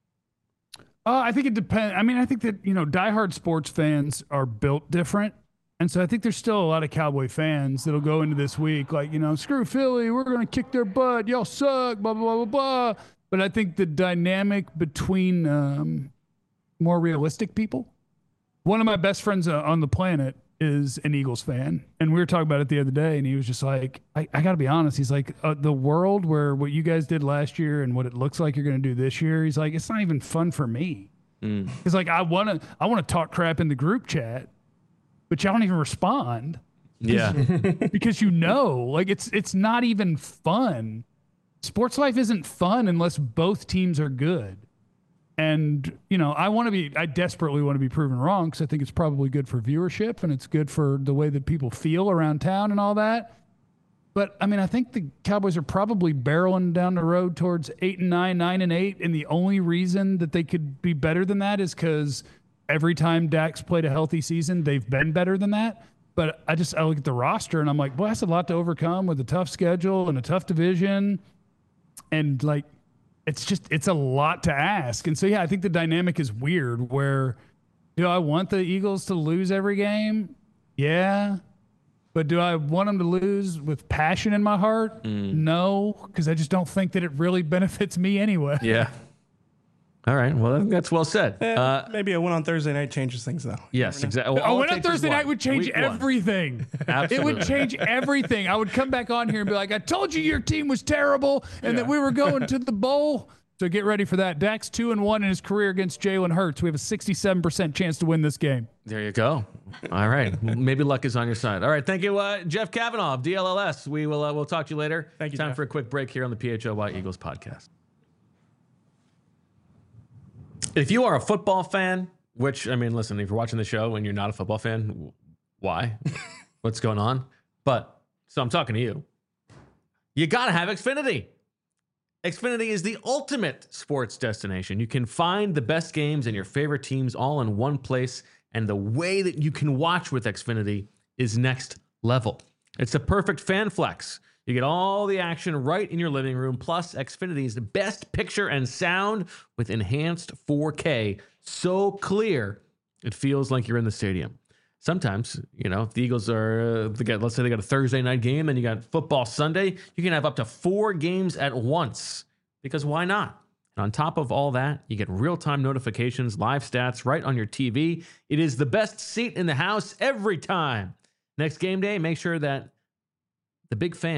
I think it depends. I mean, I think that, diehard sports fans are built different. And so I think there's still a lot of Cowboy fans that'll go into this week like, screw Philly, we're going to kick their butt, y'all suck, blah, blah, blah, blah, blah. But I think the dynamic between more realistic people, one of my best friends on the planet is an Eagles fan. And we were talking about it the other day, and he was just like, I got to be honest. He's like, the world where what you guys did last year and what it looks like you're going to do this year, he's like, it's not even fun for me. He's like, I want to talk crap in the group chat, but y'all don't even respond. Yeah. Because like it's not even fun. Sports life isn't fun unless both teams are good. And, I desperately want to be proven wrong because I think it's probably good for viewership and it's good for the way that people feel around town and all that. But, I mean, I think the Cowboys are probably barreling down the road towards 8-9, 9-8. And the only reason that they could be better than that is because every time Dak's played a healthy season, they've been better than that. But I look at the roster and I'm like, boy, that's a lot to overcome with a tough schedule and a tough division. And, like, it's a lot to ask. And so, yeah, I think the dynamic is weird where, do I want the Eagles to lose every game? Yeah. But do I want them to lose with passion in my heart? No, because I just don't think that it really benefits me anyway. Yeah. All right. Well, I think that's well said. Maybe a win on Thursday night changes things, though. Yes, exactly. Well, A win on Thursday night would change everything. It would change everything. I would come back on here and be like, I told you your team was terrible and that we were going to the bowl. So get ready for that. Dak's 2-1 in his career against Jalen Hurts. We have a 67% chance to win this game. There you go. All right. Maybe luck is on your side. All right. Thank you, Jeff Kavanaugh of DLLS. We'll talk to you later. Thank you, Time Jeff. for a quick break here on the PHLY Eagles podcast. If you are a football fan, which, I mean, listen, if you're watching the show and you're not a football fan, why? What's going on? So I'm talking to you. You got to have Xfinity. Xfinity is the ultimate sports destination. You can find the best games and your favorite teams all in one place, and the way that you can watch with Xfinity is next level. It's a perfect fan flex. You get all the action right in your living room, plus Xfinity's best picture and sound with enhanced 4K, so clear it feels like you're in the stadium. Sometimes, if the Eagles let's say they got a Thursday night game and you got football Sunday, you can have up to 4 games at once, because why not? And on top of all that, you get real-time notifications, live stats right on your TV. It is the best seat in the house every time. Next game day, make sure that the big fan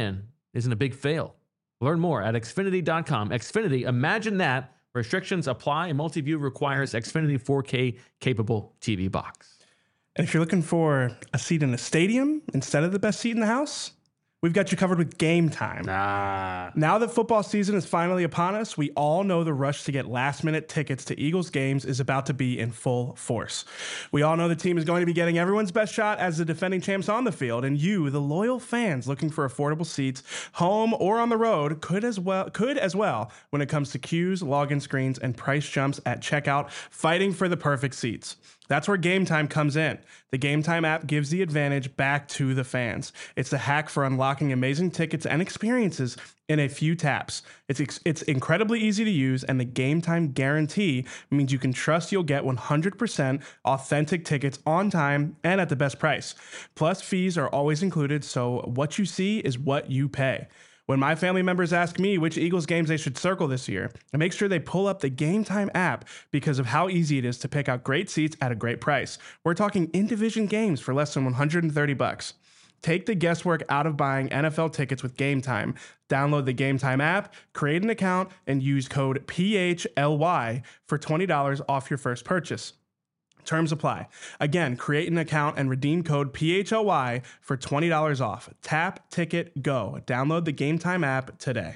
isn't a big fail. Learn more at Xfinity.com. Xfinity, imagine that. Restrictions apply, and multi-view requires Xfinity 4K capable TV box. And if you're looking for a seat in a stadium instead of the best seat in the house, we've got you covered with Game Time. Now that football season is finally upon us, we all know the rush to get last-minute tickets to Eagles games is about to be in full force. We all know the team is going to be getting everyone's best shot as the defending champs on the field, and you, the loyal fans looking for affordable seats, home or on the road, could as well when it comes to queues, login screens, and price jumps at checkout, fighting for the perfect seats. That's where Game Time comes in. The Game Time app gives the advantage back to the fans. It's the hack for unlocking amazing tickets and experiences in a few taps. It's incredibly easy to use, and the Game Time guarantee means you can trust you'll get 100% authentic tickets on time and at the best price. Plus, fees are always included, so what you see is what you pay. When my family members ask me which Eagles games they should circle this year, I make sure they pull up the Game Time app because of how easy it is to pick out great seats at a great price. We're talking in-division games for less than $130. Take the guesswork out of buying NFL tickets with Game Time. Download the Game Time app, create an account, and use code PHLY for $20 off your first purchase. Terms apply. Again, create an account and redeem code PHLY for $20 off. Tap, ticket, go. Download the Game Time app today.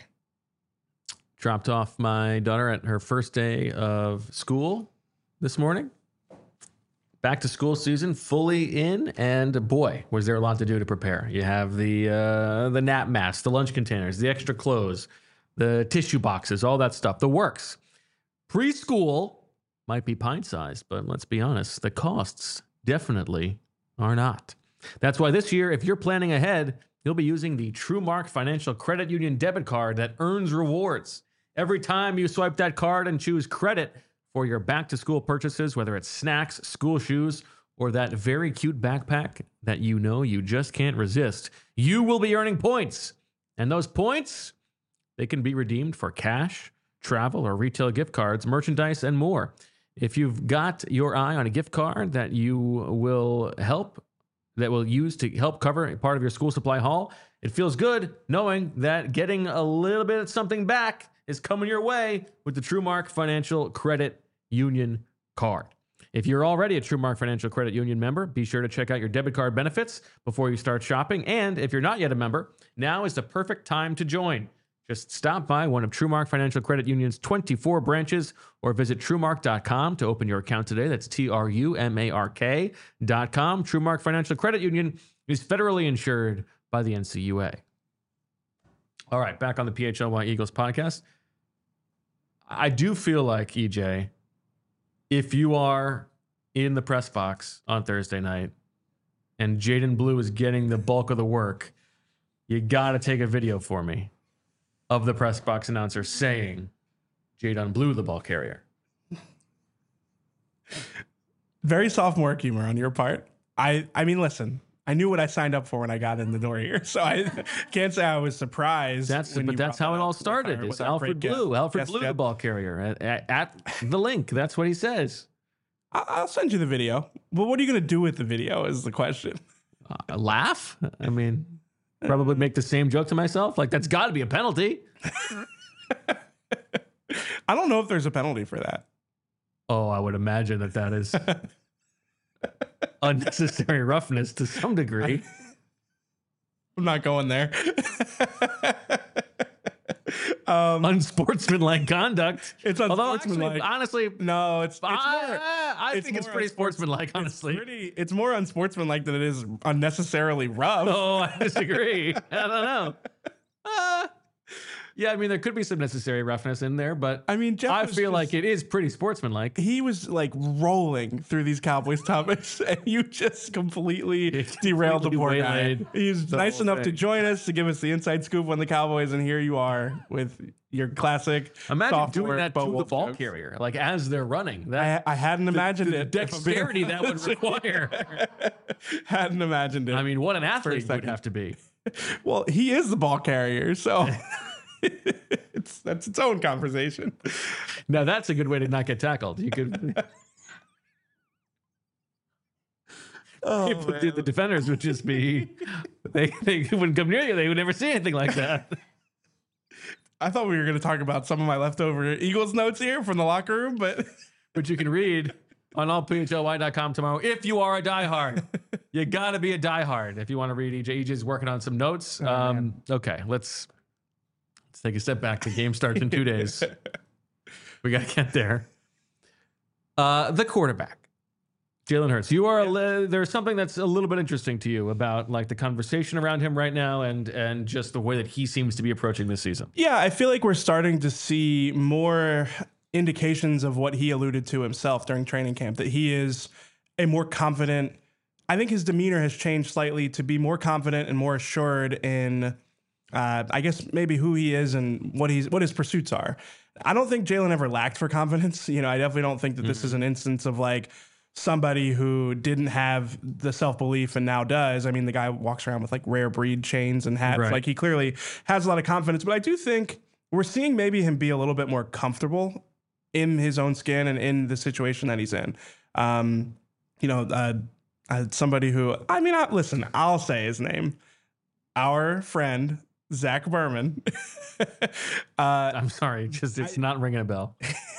Dropped off my daughter at her first day of school this morning. Back to school season fully in, and boy, was there a lot to do to prepare. You have the nap masks, the lunch containers, the extra clothes, the tissue boxes, all that stuff, the works. Preschool might be pint-sized, but let's be honest, the costs definitely are not. That's why this year, if you're planning ahead, you'll be using the TrueMark Financial Credit Union debit card that earns rewards. Every time you swipe that card and choose credit for your back-to-school purchases, whether it's snacks, school shoes, or that very cute backpack that you know you just can't resist, you will be earning points. And those points, they can be redeemed for cash, travel, or retail gift cards, merchandise, and more. If you've got your eye on a gift card that will use to help cover part of your school supply haul, it feels good knowing that getting a little bit of something back is coming your way with the TrueMark Financial Credit Union card. If you're already a TrueMark Financial Credit Union member, be sure to check out your debit card benefits before you start shopping. And if you're not yet a member, now is the perfect time to join. Just stop by one of TrueMark Financial Credit Union's 24 branches or visit TrueMark.com to open your account today. That's TrueMark.com. TrueMark Financial Credit Union is federally insured by the NCUA. All right, back on the PHLY Eagles podcast. I do feel like, EJ, if you are in the press box on Thursday night and Jaden Blue is getting the bulk of the work, you got to take a video for me of the press box announcer saying Jaden Blue, the ball carrier. Very sophomore humor on your part. I mean, listen, I knew what I signed up for when I got in the door here, so I can't say I was surprised. But that's how it all started. It's Alfred Blue. Alfred Blue, the ball carrier at the link. That's what he says. I'll send you the video. Well, what are you going to do with the video is the question. Laugh? I mean, probably make the same joke to myself. Like, that's got to be a penalty. I don't know if there's a penalty for that. Oh, I would imagine that is unnecessary roughness to some degree. I'm not going there. Unsportsmanlike conduct. It's unsportsmanlike. Honestly, no, it's more. I think it's pretty sportsmanlike, honestly. It's more unsportsmanlike than it is unnecessarily rough. Oh, I disagree. I don't know. Yeah, I mean, there could be some necessary roughness in there, but I mean, I feel like it is pretty sportsmanlike. He was like rolling through these Cowboys topics, and you just completely derailed the poor guy. He's nice enough to join us to give us the inside scoop on the Cowboys, and here you are with your classic. Imagine doing that to the ball carrier, like as they're running. I hadn't imagined it. Dexterity that would require. Hadn't imagined it. I mean, what an athlete would have to be. Well, he is the ball carrier, so. That's its own conversation. Now that's a good way to not get tackled. You could The defenders would just be, they wouldn't come near you. They would never see anything like that. I thought we were going to talk about some of my leftover Eagles notes here from the locker room, but Which you can read on allphly.com tomorrow. If you are a diehard, you got to be a diehard if you want to read EJ. EJ's working on some notes. Okay, let's take a step back. The game starts in 2 days. We got to get there. The quarterback. Jalen Hurts, you are there's something that's a little bit interesting to you about like the conversation around him right now and just the way that he seems to be approaching this season. yeah, I feel like we're starting to see more indications of what he alluded to himself during training camp, that he is a more confident. I think his demeanor has changed slightly to be more confident and more assured in, I guess maybe who he is and what his pursuits are. I don't think Jalen ever lacked for confidence. You know, I definitely don't think that this is an instance of like somebody who didn't have the self-belief and now does. I mean, the guy walks around with like rare breed chains and hats. Right. Like he clearly has a lot of confidence, but I do think we're seeing maybe him be a little bit more comfortable in his own skin and in the situation that he's in. Somebody who, I mean, listen, I'll say his name. Our friend, Zach Berman. I'm sorry, it's not ringing a bell.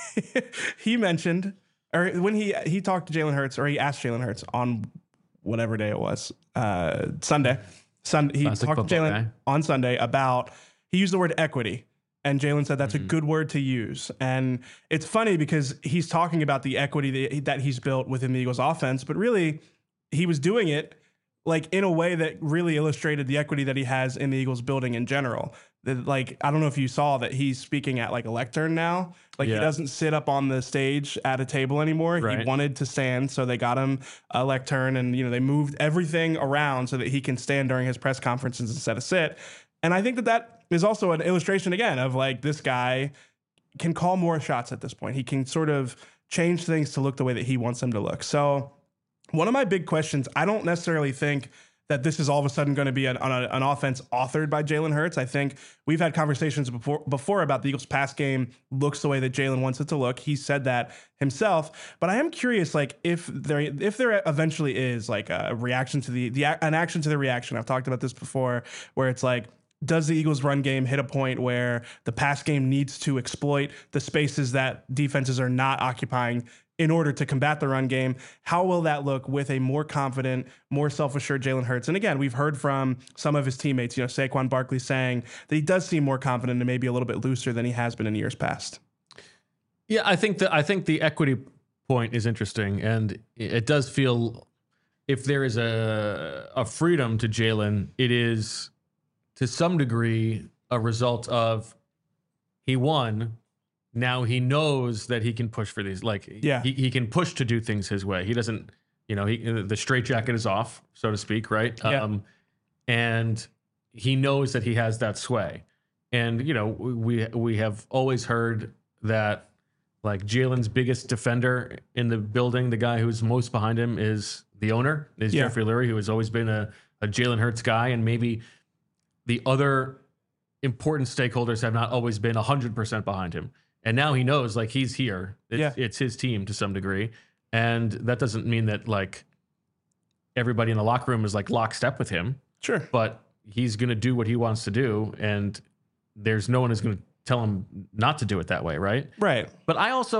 He mentioned, or when he talked to Jalen Hurts, or he asked Jalen Hurts on whatever day it was, Sunday. He Classic talked to football Jalen guy. on Sunday about, he used the word equity. And Jalen said that's a good word to use. And it's funny because he's talking about the equity that he's built within the Eagles offense, but really he was doing it like in a way that really illustrated the equity that he has in the Eagles building in general. Like, I don't know if you saw that he's speaking at like a lectern now. Like he doesn't sit up on the stage at a table anymore. Right. He wanted to stand, so they got him a lectern, and they moved everything around so that he can stand during his press conferences instead of sit. And I think that is also an illustration again of like this guy can call more shots at this point. He can sort of change things to look the way that he wants them to look. So one of my big questions, I don't necessarily think that this is all of a sudden going to be an offense authored by Jalen Hurts. I think we've had conversations before about the Eagles' pass game looks the way that Jalen wants it to look. He said that himself. But I am curious, like if there eventually is like a reaction to an action to the reaction. I've talked about this before, where it's like, does the Eagles' run game hit a point where the pass game needs to exploit the spaces that defenses are not occupying in order to combat the run game? How will that look with a more confident, more self-assured Jalen Hurts? And again, we've heard from some of his teammates, Saquon Barkley saying that he does seem more confident and maybe a little bit looser than he has been in years past. Yeah, I think the equity point is interesting, and it does feel if there is a freedom to Jalen, it is to some degree a result of he won. Now he knows that he can push for these. Like, he can push to do things his way. He doesn't, the straitjacket is off, so to speak, right? Yeah. And he knows that he has that sway. And, we have always heard that, like, Jalen's biggest defender in the building, the guy who's most behind him is the owner, is Jeffrey Lurie, who has always been a Jalen Hurts guy. And maybe the other important stakeholders have not always been 100% behind him. And now he knows, like, he's here. It's his team to some degree. And that doesn't mean that, like, everybody in the locker room is, like, lockstep with him. Sure. But he's going to do what he wants to do. And there's no one who's going to tell him not to do it that way, right? Right. But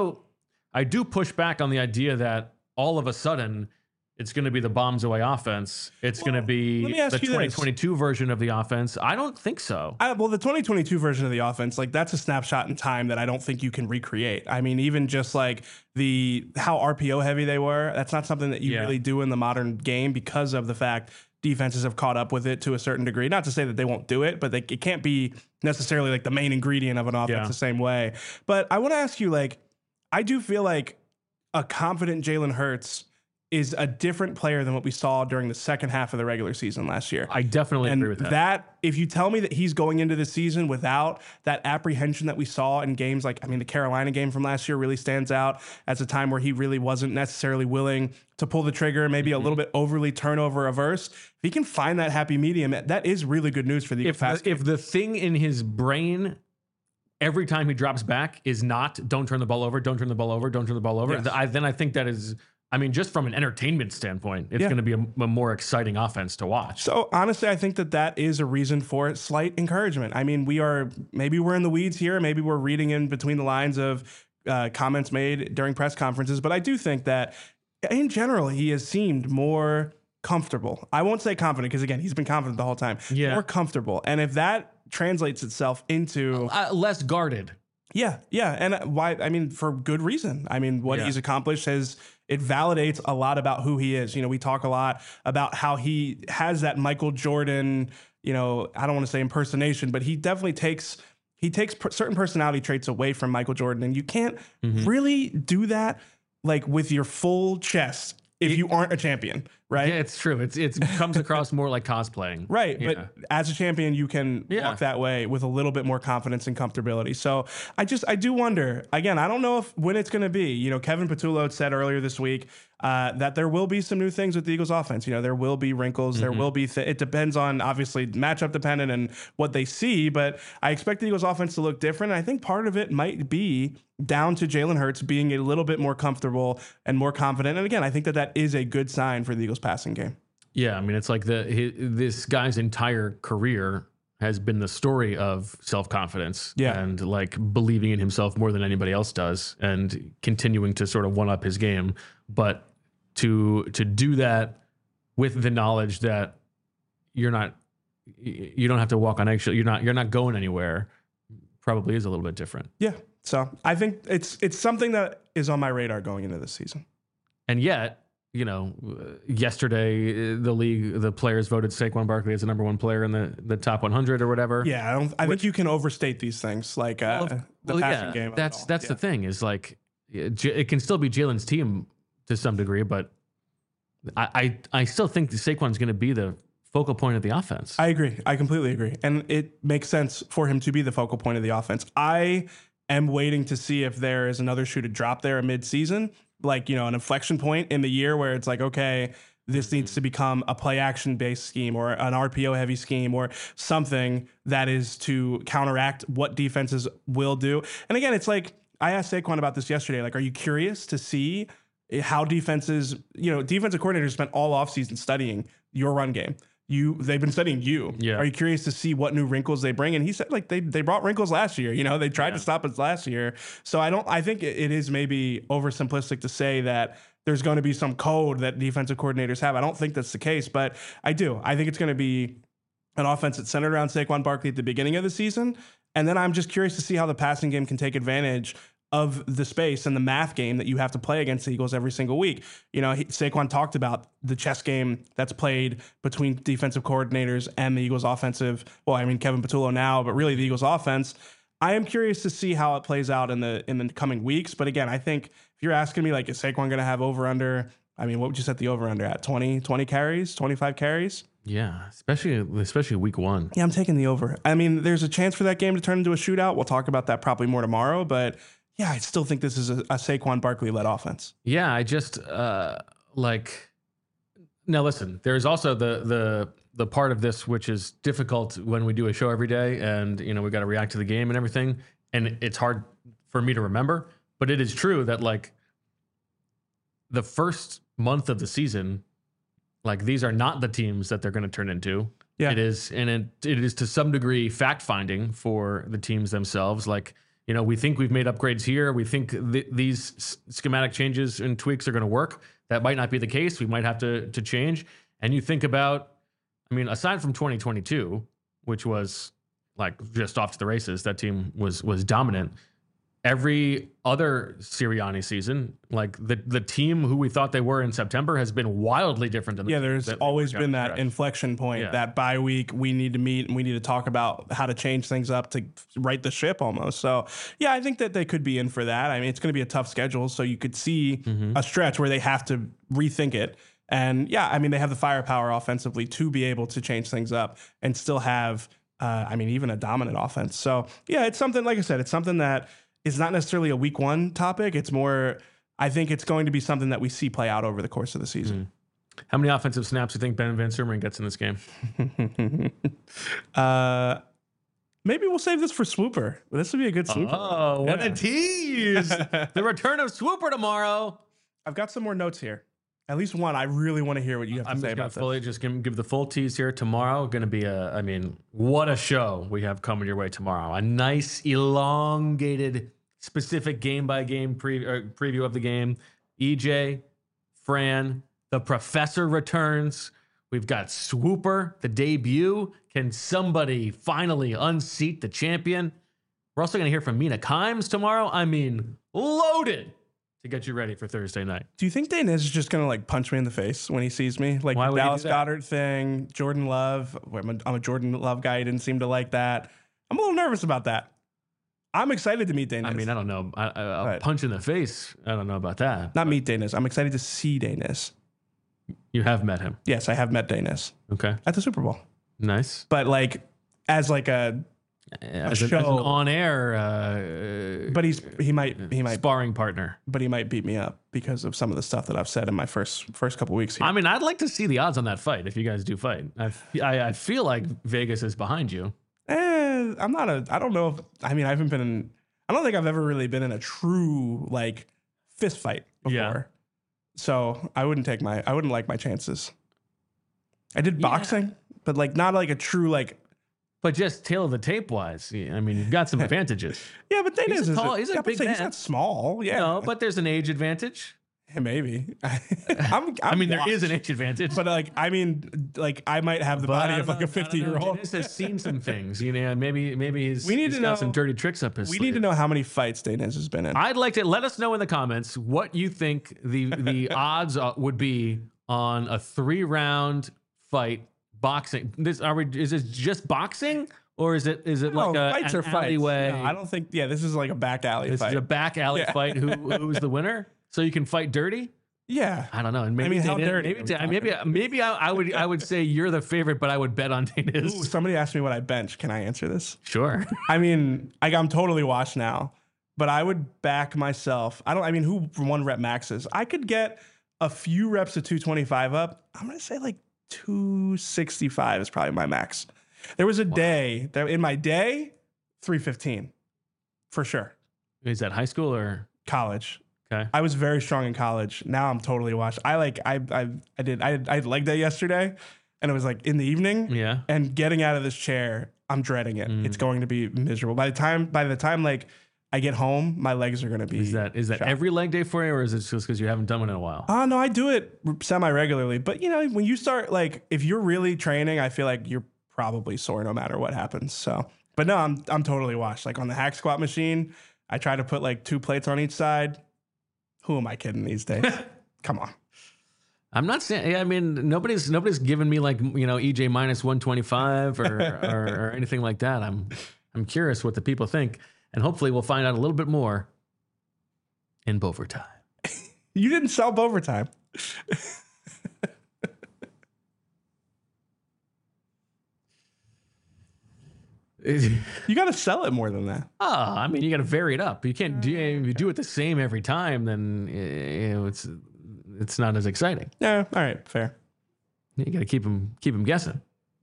I do push back on the idea that all of a sudden it's going to be the bombs away offense. It's going to be the 2022 version of the offense. I don't think so. The 2022 version of the offense, like, that's a snapshot in time that I don't think you can recreate. I mean, even just like how RPO heavy they were, that's not something that you really do in the modern game because of the fact defenses have caught up with it to a certain degree. Not to say that they won't do it, but it can't be necessarily like the main ingredient of an offense the same way. But I want to ask you, like, I do feel like a confident Jalen Hurts is a different player than what we saw during the second half of the regular season last year. I definitely agree with that. If you tell me that he's going into the season without that apprehension that we saw in games like, I mean, the Carolina game from last year really stands out as a time where he really wasn't necessarily willing to pull the trigger, maybe a little bit overly turnover averse. If he can find that happy medium, that is really good news for the Eagles. If the thing in his brain every time he drops back is not, don't turn the ball over, don't turn the ball over, don't turn the ball over, Yes. then I think that is I mean, just from an entertainment standpoint, it's going to be a more exciting offense to watch. So honestly, I think that is a reason for slight encouragement. I mean, maybe we're in the weeds here. Maybe we're reading in between the lines of comments made during press conferences. But I do think that in general, he has seemed more comfortable. I won't say confident because, again, he's been confident the whole time. Yeah. More comfortable. And if that translates itself into less guarded. Yeah. And why? I mean, for good reason. I mean, what he's accomplished it validates a lot about who he is. You know, we talk a lot about how he has that Michael Jordan, I don't want to say impersonation, but he definitely takes certain personality traits away from Michael Jordan. And you can't really do that like with your full chest if you aren't a champion, right? Yeah, it's true. It comes across more like cosplaying. Right. Yeah. But as a champion, you can walk that way with a little bit more confidence and comfortability. So I do wonder, again, I don't know when it's going to be. Kevin Patullo said earlier this week that there will be some new things with the Eagles offense. There will be wrinkles. There will be, it depends on obviously matchup dependent and what they see, but I expect the Eagles offense to look different. And I think part of it might be down to Jalen Hurts being a little bit more comfortable and more confident. And again, I think that is a good sign for the Eagles passing game. Yeah, I mean, it's like this guy's entire career has been the story of self-confidence and like believing in himself more than anybody else does and continuing to sort of one-up his game. But to do that with the knowledge that you don't have to walk on eggshell, you're not going anywhere, probably is a little bit different. Yeah. So I think it's something that is on my radar going into this season. And yet, yesterday the players voted Saquon Barkley as the number one player in the top 100 or whatever. Yeah, I think you can overstate these things like the passing game. That's the thing is like it can still be Jalen's team to some degree, but I still think Saquon's going to be the focal point of the offense. I agree. I completely agree. And it makes sense for him to be the focal point of the offense. I am waiting to see if there is another shoe to drop there mid-season, like, an inflection point in the year where it's like, okay, this needs to become a play action based scheme or an RPO heavy scheme or something that is to counteract what defenses will do. And again, it's like, I asked Saquon about this yesterday. Like, are you curious to see how defensive coordinators spent all offseason studying your run game? They've been studying you. Yeah. Are you curious to see what new wrinkles they bring? And he said, like, they brought wrinkles last year. They tried to stop us last year. So I think it is maybe oversimplistic to say that there's going to be some code that defensive coordinators have. I don't think that's the case, but I do. I think it's going to be an offense that's centered around Saquon Barkley at the beginning of the season. And then I'm just curious to see how the passing game can take advantage of the space and the math game that you have to play against the Eagles every single week. Saquon talked about the chess game that's played between defensive coordinators and the Eagles offensive. Well, I mean, Kevin Patullo now, but really the Eagles offense. I am curious to see how it plays out in the coming weeks. But again, I think if you're asking me, like, is Saquon going to have over under? I mean, what would you set the over under at? 20 carries, 25 carries? Yeah, especially week one. Yeah, I'm taking the over. I mean, there's a chance for that game to turn into a shootout. We'll talk about that probably more tomorrow, but yeah, I still think this is a Saquon Barkley-led offense. Yeah, I just now listen, there's also the part of this which is difficult when we do a show every day and we got to react to the game and everything, and it's hard for me to remember, but it is true that like the first month of the season, like these are not the teams that they're going to turn into. Yeah. It is to some degree fact finding for the teams themselves. Like, we think we've made upgrades here. We think these schematic changes and tweaks are going to work. That might not be the case. We might have to change. And you think about, I mean, aside from 2022, which was like just off to the races, that team was dominant. Every other Sirianni season, like the team who we thought they were in September has been wildly different than there's always been that inflection point, that bye week we need to meet and we need to talk about how to change things up to right the ship almost. So yeah, I think that they could be in for that. I mean, it's going to be a tough schedule, so you could see a stretch where they have to rethink it. And yeah, I mean, they have the firepower offensively to be able to change things up and still have, even a dominant offense. So yeah, it's something, like I said, it's something that is not necessarily a week one topic. It's more, I think it's going to be something that we see play out over the course of the season. How many offensive snaps do you think Ben Van Sumeren gets in this game? Maybe we'll save this for Swooper. This would be a good Swooper. Oh, what a tease. The return of Swooper tomorrow. I've got some more notes here. At least one. I really want to hear what you have to say about this. Just give the full tease here. Tomorrow going to be what a show we have coming your way tomorrow. A nice elongated, specific game by game preview of the game. EJ, Fran, the professor returns. We've got Swooper, the debut. Can somebody finally unseat the champion? We're also going to hear from Mina Kimes tomorrow. I mean, loaded to get you ready for Thursday night. Do you think Dane is just going to like punch me in the face when he sees me? Like Why the would he do Dallas that? Goddard thing, Jordan Love. I'm a Jordan Love guy. He didn't seem to like that. I'm a little nervous about that. I'm excited to meet Dane. I mean, I don't know. A punch in the face. I don't know about that. Not meet Dane. I'm excited to see Dane. You have met him. Yes, I have met Dane Okay. at the Super Bowl. Nice. But like as like As an show. on-air but he might sparring partner. but he might beat me up because of some of the stuff that I've said in my first couple weeks here. I mean, I'd like to see the odds on that fight if you guys do fight. I feel like Vegas is behind you. I'm not I don't know if, I mean, I don't think I've ever really been in a true like fist fight before. Yeah. So I wouldn't like my chances. I did boxing, but like not like a true like. But just tail of the tape wise, I mean, you've got some advantages. Yeah, but Dane He's is a big he's man. not small. Yeah, No, but there's an age advantage. maybe. I mean, there is an age advantage. But like, I mean, like I might have the body of like a 50-year-old. Dennis has seen some things, you know. Maybe he's We need he's to got know- some dirty tricks up his We sleeve. need to know how many fights Dane has been in. I'd like to let us know in the comments what you think the odds would be on a 3-round fight boxing. Is this just boxing or is it like a fights an are fights. alleyway? No, I don't think. Yeah, this is like a back alley This fight. is a back alley Yeah. fight. Who's the winner? So you can fight dirty? Yeah. I don't know. And maybe I mean, how Dane- dirty Maybe are we maybe I would say you're the favorite, but I would bet on Dane Ooh, is. somebody asked me what I bench. Can I answer this? Sure. I mean, I'm totally washed now, but I would back myself. Who 1 rep maxes? I could get a few reps of 225 up. I'm going to say like 265 is probably my max. There was a day that in my day, 315 for sure. Is that high school or College. okay? I was very strong in college. Now I'm totally washed. I had leg day yesterday and it was like in the evening. Yeah. And getting out of this chair, I'm dreading it. It's going to be miserable. By the time like I get home, my legs are going to be. Is that shot. every leg day for you, or is it just because you haven't done one in a while? No, I do it semi-regularly. But you know, when you start like if you're really training, I feel like you're probably sore no matter what happens. So, but no, I'm totally washed. Like on the hack squat machine, I try to put like 2 plates on each side. Who am I kidding these days? Come on. I'm not saying. I mean, nobody's given me like EJ minus 125 or anything like that. I'm curious what the people think, and hopefully we'll find out a little bit more in Bovertime. You didn't sell overtime. You got to sell it more than that. I mean, you got to vary it up. You can't do if you do it the same every time. Then it's not as exciting. Yeah. All right. Fair. You got to keep them guessing.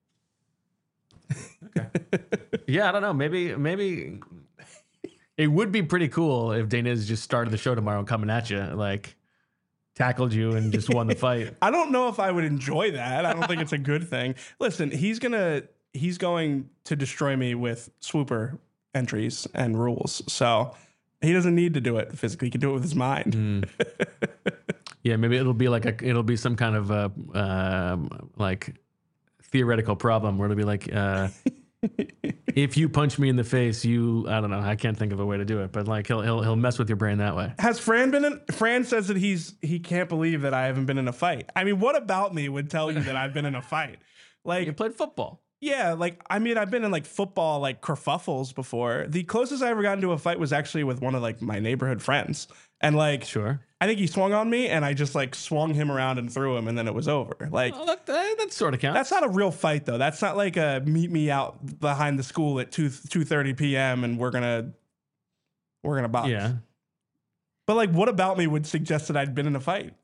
Okay. Yeah, I don't know. Maybe it would be pretty cool if Daniz just started the show tomorrow and coming at you, like tackled you and just won the fight. I don't know if I would enjoy that. I don't think it's a good thing. Listen, he's going to destroy me with swooper entries and rules. So he doesn't need to do it physically. He can do it with his mind. Yeah, maybe it'll be some kind of like theoretical problem where it'll be like if you punch me in the face, I don't know, I can't think of a way to do it, but like he'll mess with your brain that way. Has Fran been in? Fran says that he can't believe that I haven't been in a fight. I mean, what about me would tell you that I've been in a fight? Like, You played football. yeah, like, I mean, I've been in like football, like kerfuffles before. The closest I ever got into a fight was actually with one of like my neighborhood friends. And like, Sure. I think he swung on me and I just like swung him around and threw him and then it was over. Like, Well, that sort of counts. that's not a real fight though. That's not like a meet me out behind the school at 2:30 p.m. and we're gonna box. Yeah. But like, what about me would suggest that I'd been in a fight?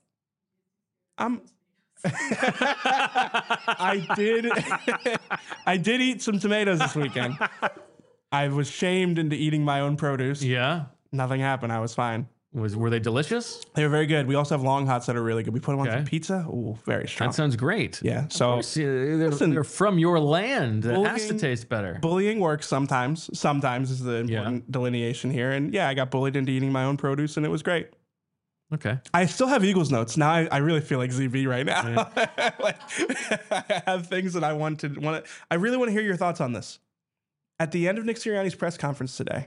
I did eat some tomatoes this weekend. I was shamed into eating my own produce. Yeah. Nothing happened. I was fine. Were they delicious? They were very good. We also have long hots that are really good. We put them on Okay. some pizza. Ooh, very strong. That sounds great. Yeah. So See, they're, Listen, they're from your land. It has to bullying- taste better. bullying works sometimes. Sometimes is the important delineation here. And yeah, I got bullied into eating my own produce, and it was great. Okay. I still have Eagles notes. Now I really feel like ZB right now. Like, I have things that I want to. I really want to hear your thoughts on this. At the end of Nick Sirianni's press conference today,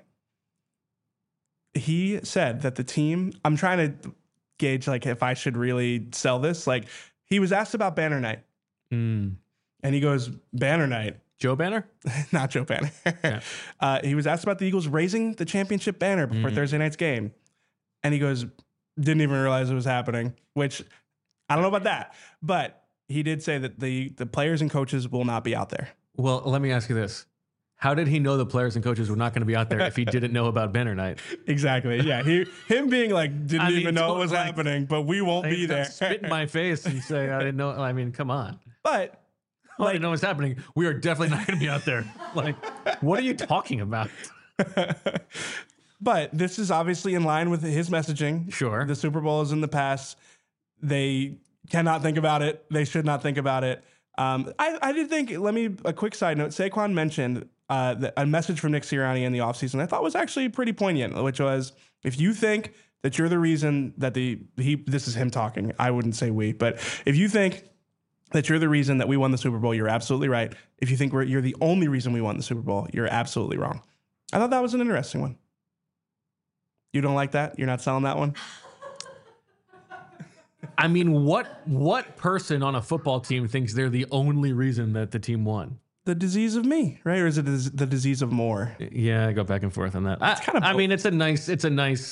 he said that the team. I'm trying to gauge like if I should really sell this. Like he was asked about Banner Night, and he goes, "Banner Night." Joe Banner? Not Joe Banner. He was asked about the Eagles raising the championship banner before Thursday night's game, and he goes, "Didn't even realize it was happening." Which I don't know about that, but he did say that the players and coaches will not be out there. Well, let me ask you this. How did he know the players and coaches were not going to be out there if he didn't know about Banner Night? Exactly. Yeah. Him being like, didn't even know it was like- happening, but we won't be there. Spit in my face and say, I didn't know. I mean, come on. But I didn't know what's happening. We are definitely not going to be out there. Like, what are you talking about? But this is obviously in line with his messaging. Sure. The Super Bowl is in the past. They cannot think about it. They should not think about it. I did think, a quick side note, Saquon mentioned a message from Nick Sirianni in the offseason I thought was actually pretty poignant, which was, if you think that you're the reason that this is him talking, I wouldn't say we, but if you think that you're the reason that we won the Super Bowl, you're absolutely right. If you think you're the only reason we won the Super Bowl, you're absolutely wrong. I thought that was an interesting one. You don't like that? You're not selling that one? I mean, what person on a football team thinks they're the only reason that the team won? The disease of me, right? Or is it the disease of more? Yeah, I go back and forth on that. kinda I both. mean, it's a nice,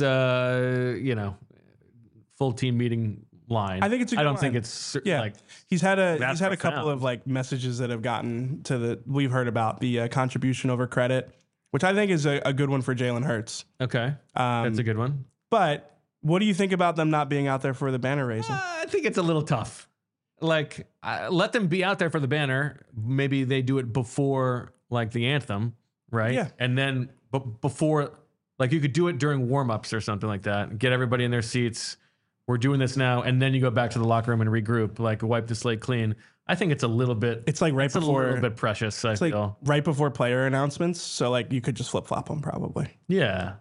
full team meeting line. I think it's a good I don't line. think it's Yeah, like he's had a that's couple profound. of like messages that have gotten to we've heard about the contribution over credit, which I think is a good one for Jalen Hurts. okay. That's a good one. But what do you think about them not being out there for the banner raising? I think it's a little tough. Like, let them be out there for the banner. Maybe they do it before like the anthem, right? Yeah. And then before, like, you could do it during warm-ups or something like that. Get everybody in their seats. We're doing this now, and then you go back to the locker room and regroup. Like, wipe the slate clean. I think it's a little bit. It's like right It's a before little bit precious. I it's like feel. right before player announcements, so like you could just flip flop them probably. Yeah.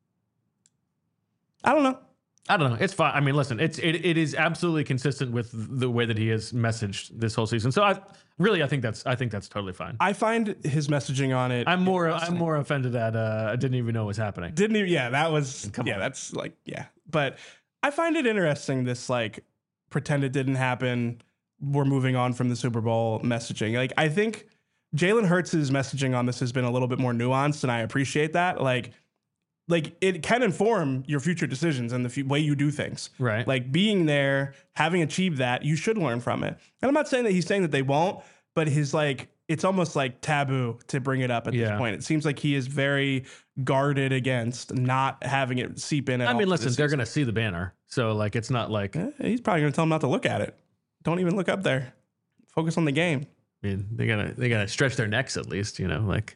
I don't know. I don't know. It's fine. I mean, listen, it is absolutely consistent with the way that he has messaged this whole season. So I think that's totally fine. I find his messaging on it. I'm more offended at I didn't even know it was happening. Didn't even, yeah, that was, Come on. that's like, yeah. But I find it interesting, this like pretend it didn't happen, we're moving on from the Super Bowl messaging. Like, I think Jalen Hurts' messaging on this has been a little bit more nuanced, and I appreciate that. Like it can inform your future decisions and the way you do things. Right. Like being there, having achieved that, you should learn from it. And I'm not saying that he's saying that they won't, but his like, it's almost like taboo to bring it up at this point. It seems like he is very guarded against not having it seep in. I mean, listen, they're going to see the banner. So like, it's not like, He's probably going to tell them not to look at it. Don't even look up there. Focus on the game. I mean, they gotta stretch their necks at least, like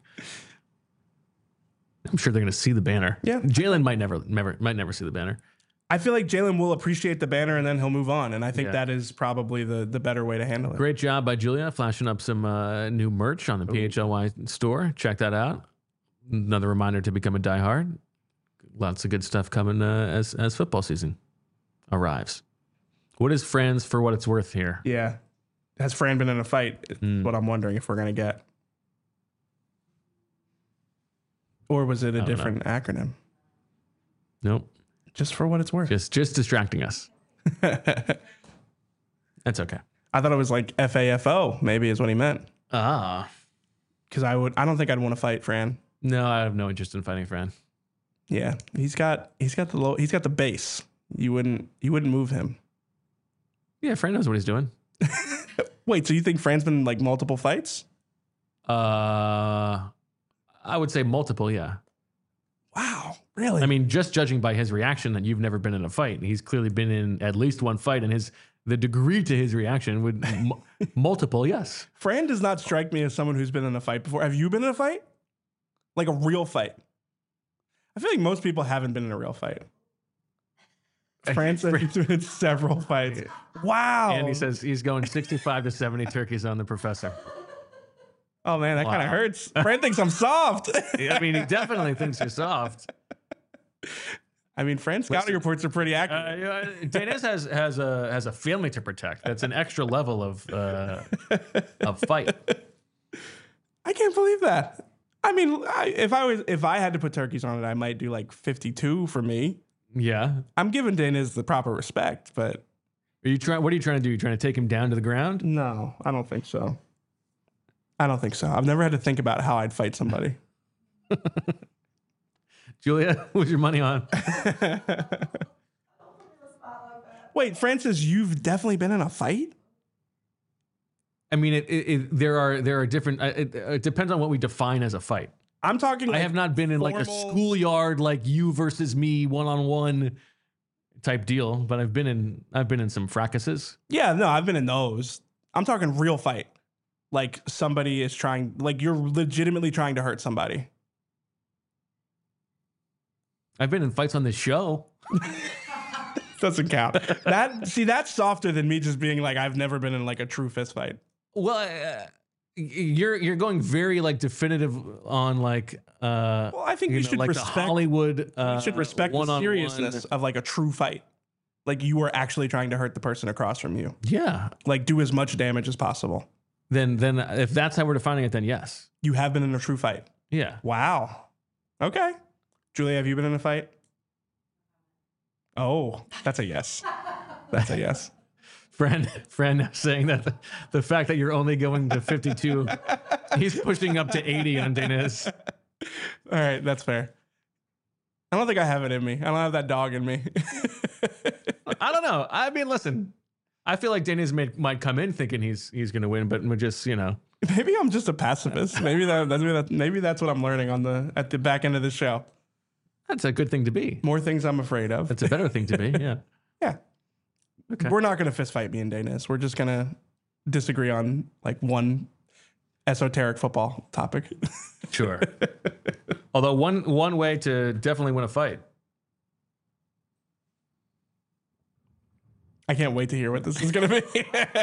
I'm sure they're gonna see the banner. Yeah. Jalen might never see the banner. I feel like Jalen will appreciate the banner and then he'll move on. And I think Yeah. that is probably the better way to handle it. Great job by Julia flashing up some new merch on the PHLY store. Check that out. Another reminder to become a diehard. Lots of good stuff coming as football season arrives. What is Fran's for what it's worth here? Yeah. Has Fran been in a fight? Is what I'm wondering if we're going to get. Or was it a different acronym? Nope. Just for what it's worth. Just distracting us. That's okay. I thought it was like FAFO, maybe is what he meant. Ah. Because I don't think I'd want to fight Fran. No, I have no interest in fighting Fran. Yeah. He's got the base. You wouldn't move him. Yeah, Fran knows what he's doing. Wait, so you think Fran's been in like multiple fights? I would say multiple, yeah. Wow. Really? I mean, just judging by his reaction that you've never been in a fight, he's clearly been in at least one fight, and the degree to his reaction would multiple, yes. Fran does not strike me as someone who's been in a fight before. Have you been in a fight? Like a real fight? I feel like most people haven't been in a real fight. France said he's been in several fights. Wow. And he says he's going 65 to 70 turkeys on the professor. Oh man, that kind of Wow. hurts. Fran thinks I'm soft. I mean, he definitely thinks you're soft. I mean, Fran's scouting reports are pretty accurate. Danis has a family to protect. That's an extra level of fight. I can't believe that. I mean, if I had to put turkeys on it, I might do like 52 for me. Yeah. I'm giving Dana's the proper respect, but Are you trying? What are you trying to do? You trying to take him down to the ground? no, I don't think so. I've never had to think about how I'd fight somebody. Julia, what's your money on? Wait, Francis, you've definitely been in a fight? I mean, there are different. It depends on what we define as a fight. I'm talking. I have not been in like a formal- schoolyard, like you versus me, one-on-one type deal, but I've been in some fracases. Yeah, no, I've been in those. I'm talking real fight. Like somebody is trying, like you're legitimately trying to hurt somebody. I've been in fights on this show. Doesn't count. That's softer than me just being like, I've never been in like a true fist fight. Well, you're going very like definitive on like. Well, I think we should like respect the Hollywood. we should respect the one-on-one. seriousness of like a true fight. Like you were actually trying to hurt the person across from you. Yeah. Like do as much damage as possible. Then if that's how we're defining it, then yes. You have been in a true fight. Yeah. Wow. Okay. Julia, have you been in a fight? Oh, that's a yes. That's a yes. Friend saying that the fact that you're only going to 52, he's pushing up to 80 on Danis. All right, that's fair. I don't think I have it in me. I don't have that dog in me. I don't know. I mean, listen, I feel like Danis might come in thinking he's going to win, but we're just, Maybe I'm just a pacifist. Maybe that's what I'm learning at the back end of the show. that's a good thing to be. More things I'm afraid of. That's a better thing to be. Yeah. Yeah. Okay. We're not going to fist fight me and Danis. We're just going to disagree on like one esoteric football topic. Sure. Although one way to definitely win a fight. I can't wait to hear what this is going to be.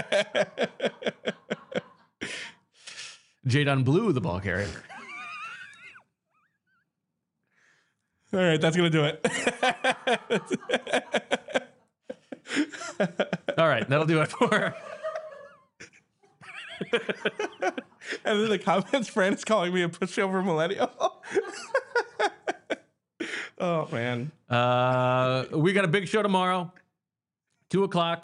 Jadon Blue, the ball carrier. All right, that's going to do it. All right, that'll do it for. And then the comments, Fran is calling me a pushover millennial. Oh, man. We got a big show tomorrow, 2:00.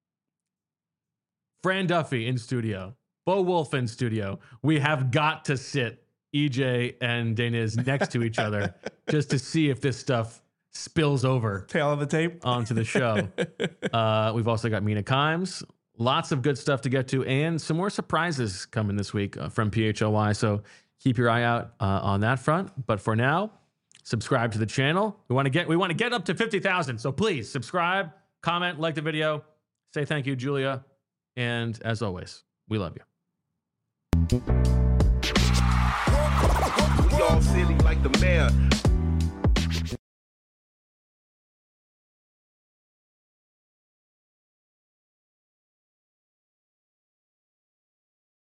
Fran Duffy in studio, Bo Wolf in studio. We have got to sit EJ and Danis next to each other just to see if this stuff spills over Tail of the tape. onto the show. We've also got Mina Kimes. Lots of good stuff to get to, and some more surprises coming this week from PHLY. So keep your eye out on that front. But for now, subscribe to the channel. We want to get up to 50,000. So please subscribe, comment, like the video, say thank you, Julia, and as always, we love you.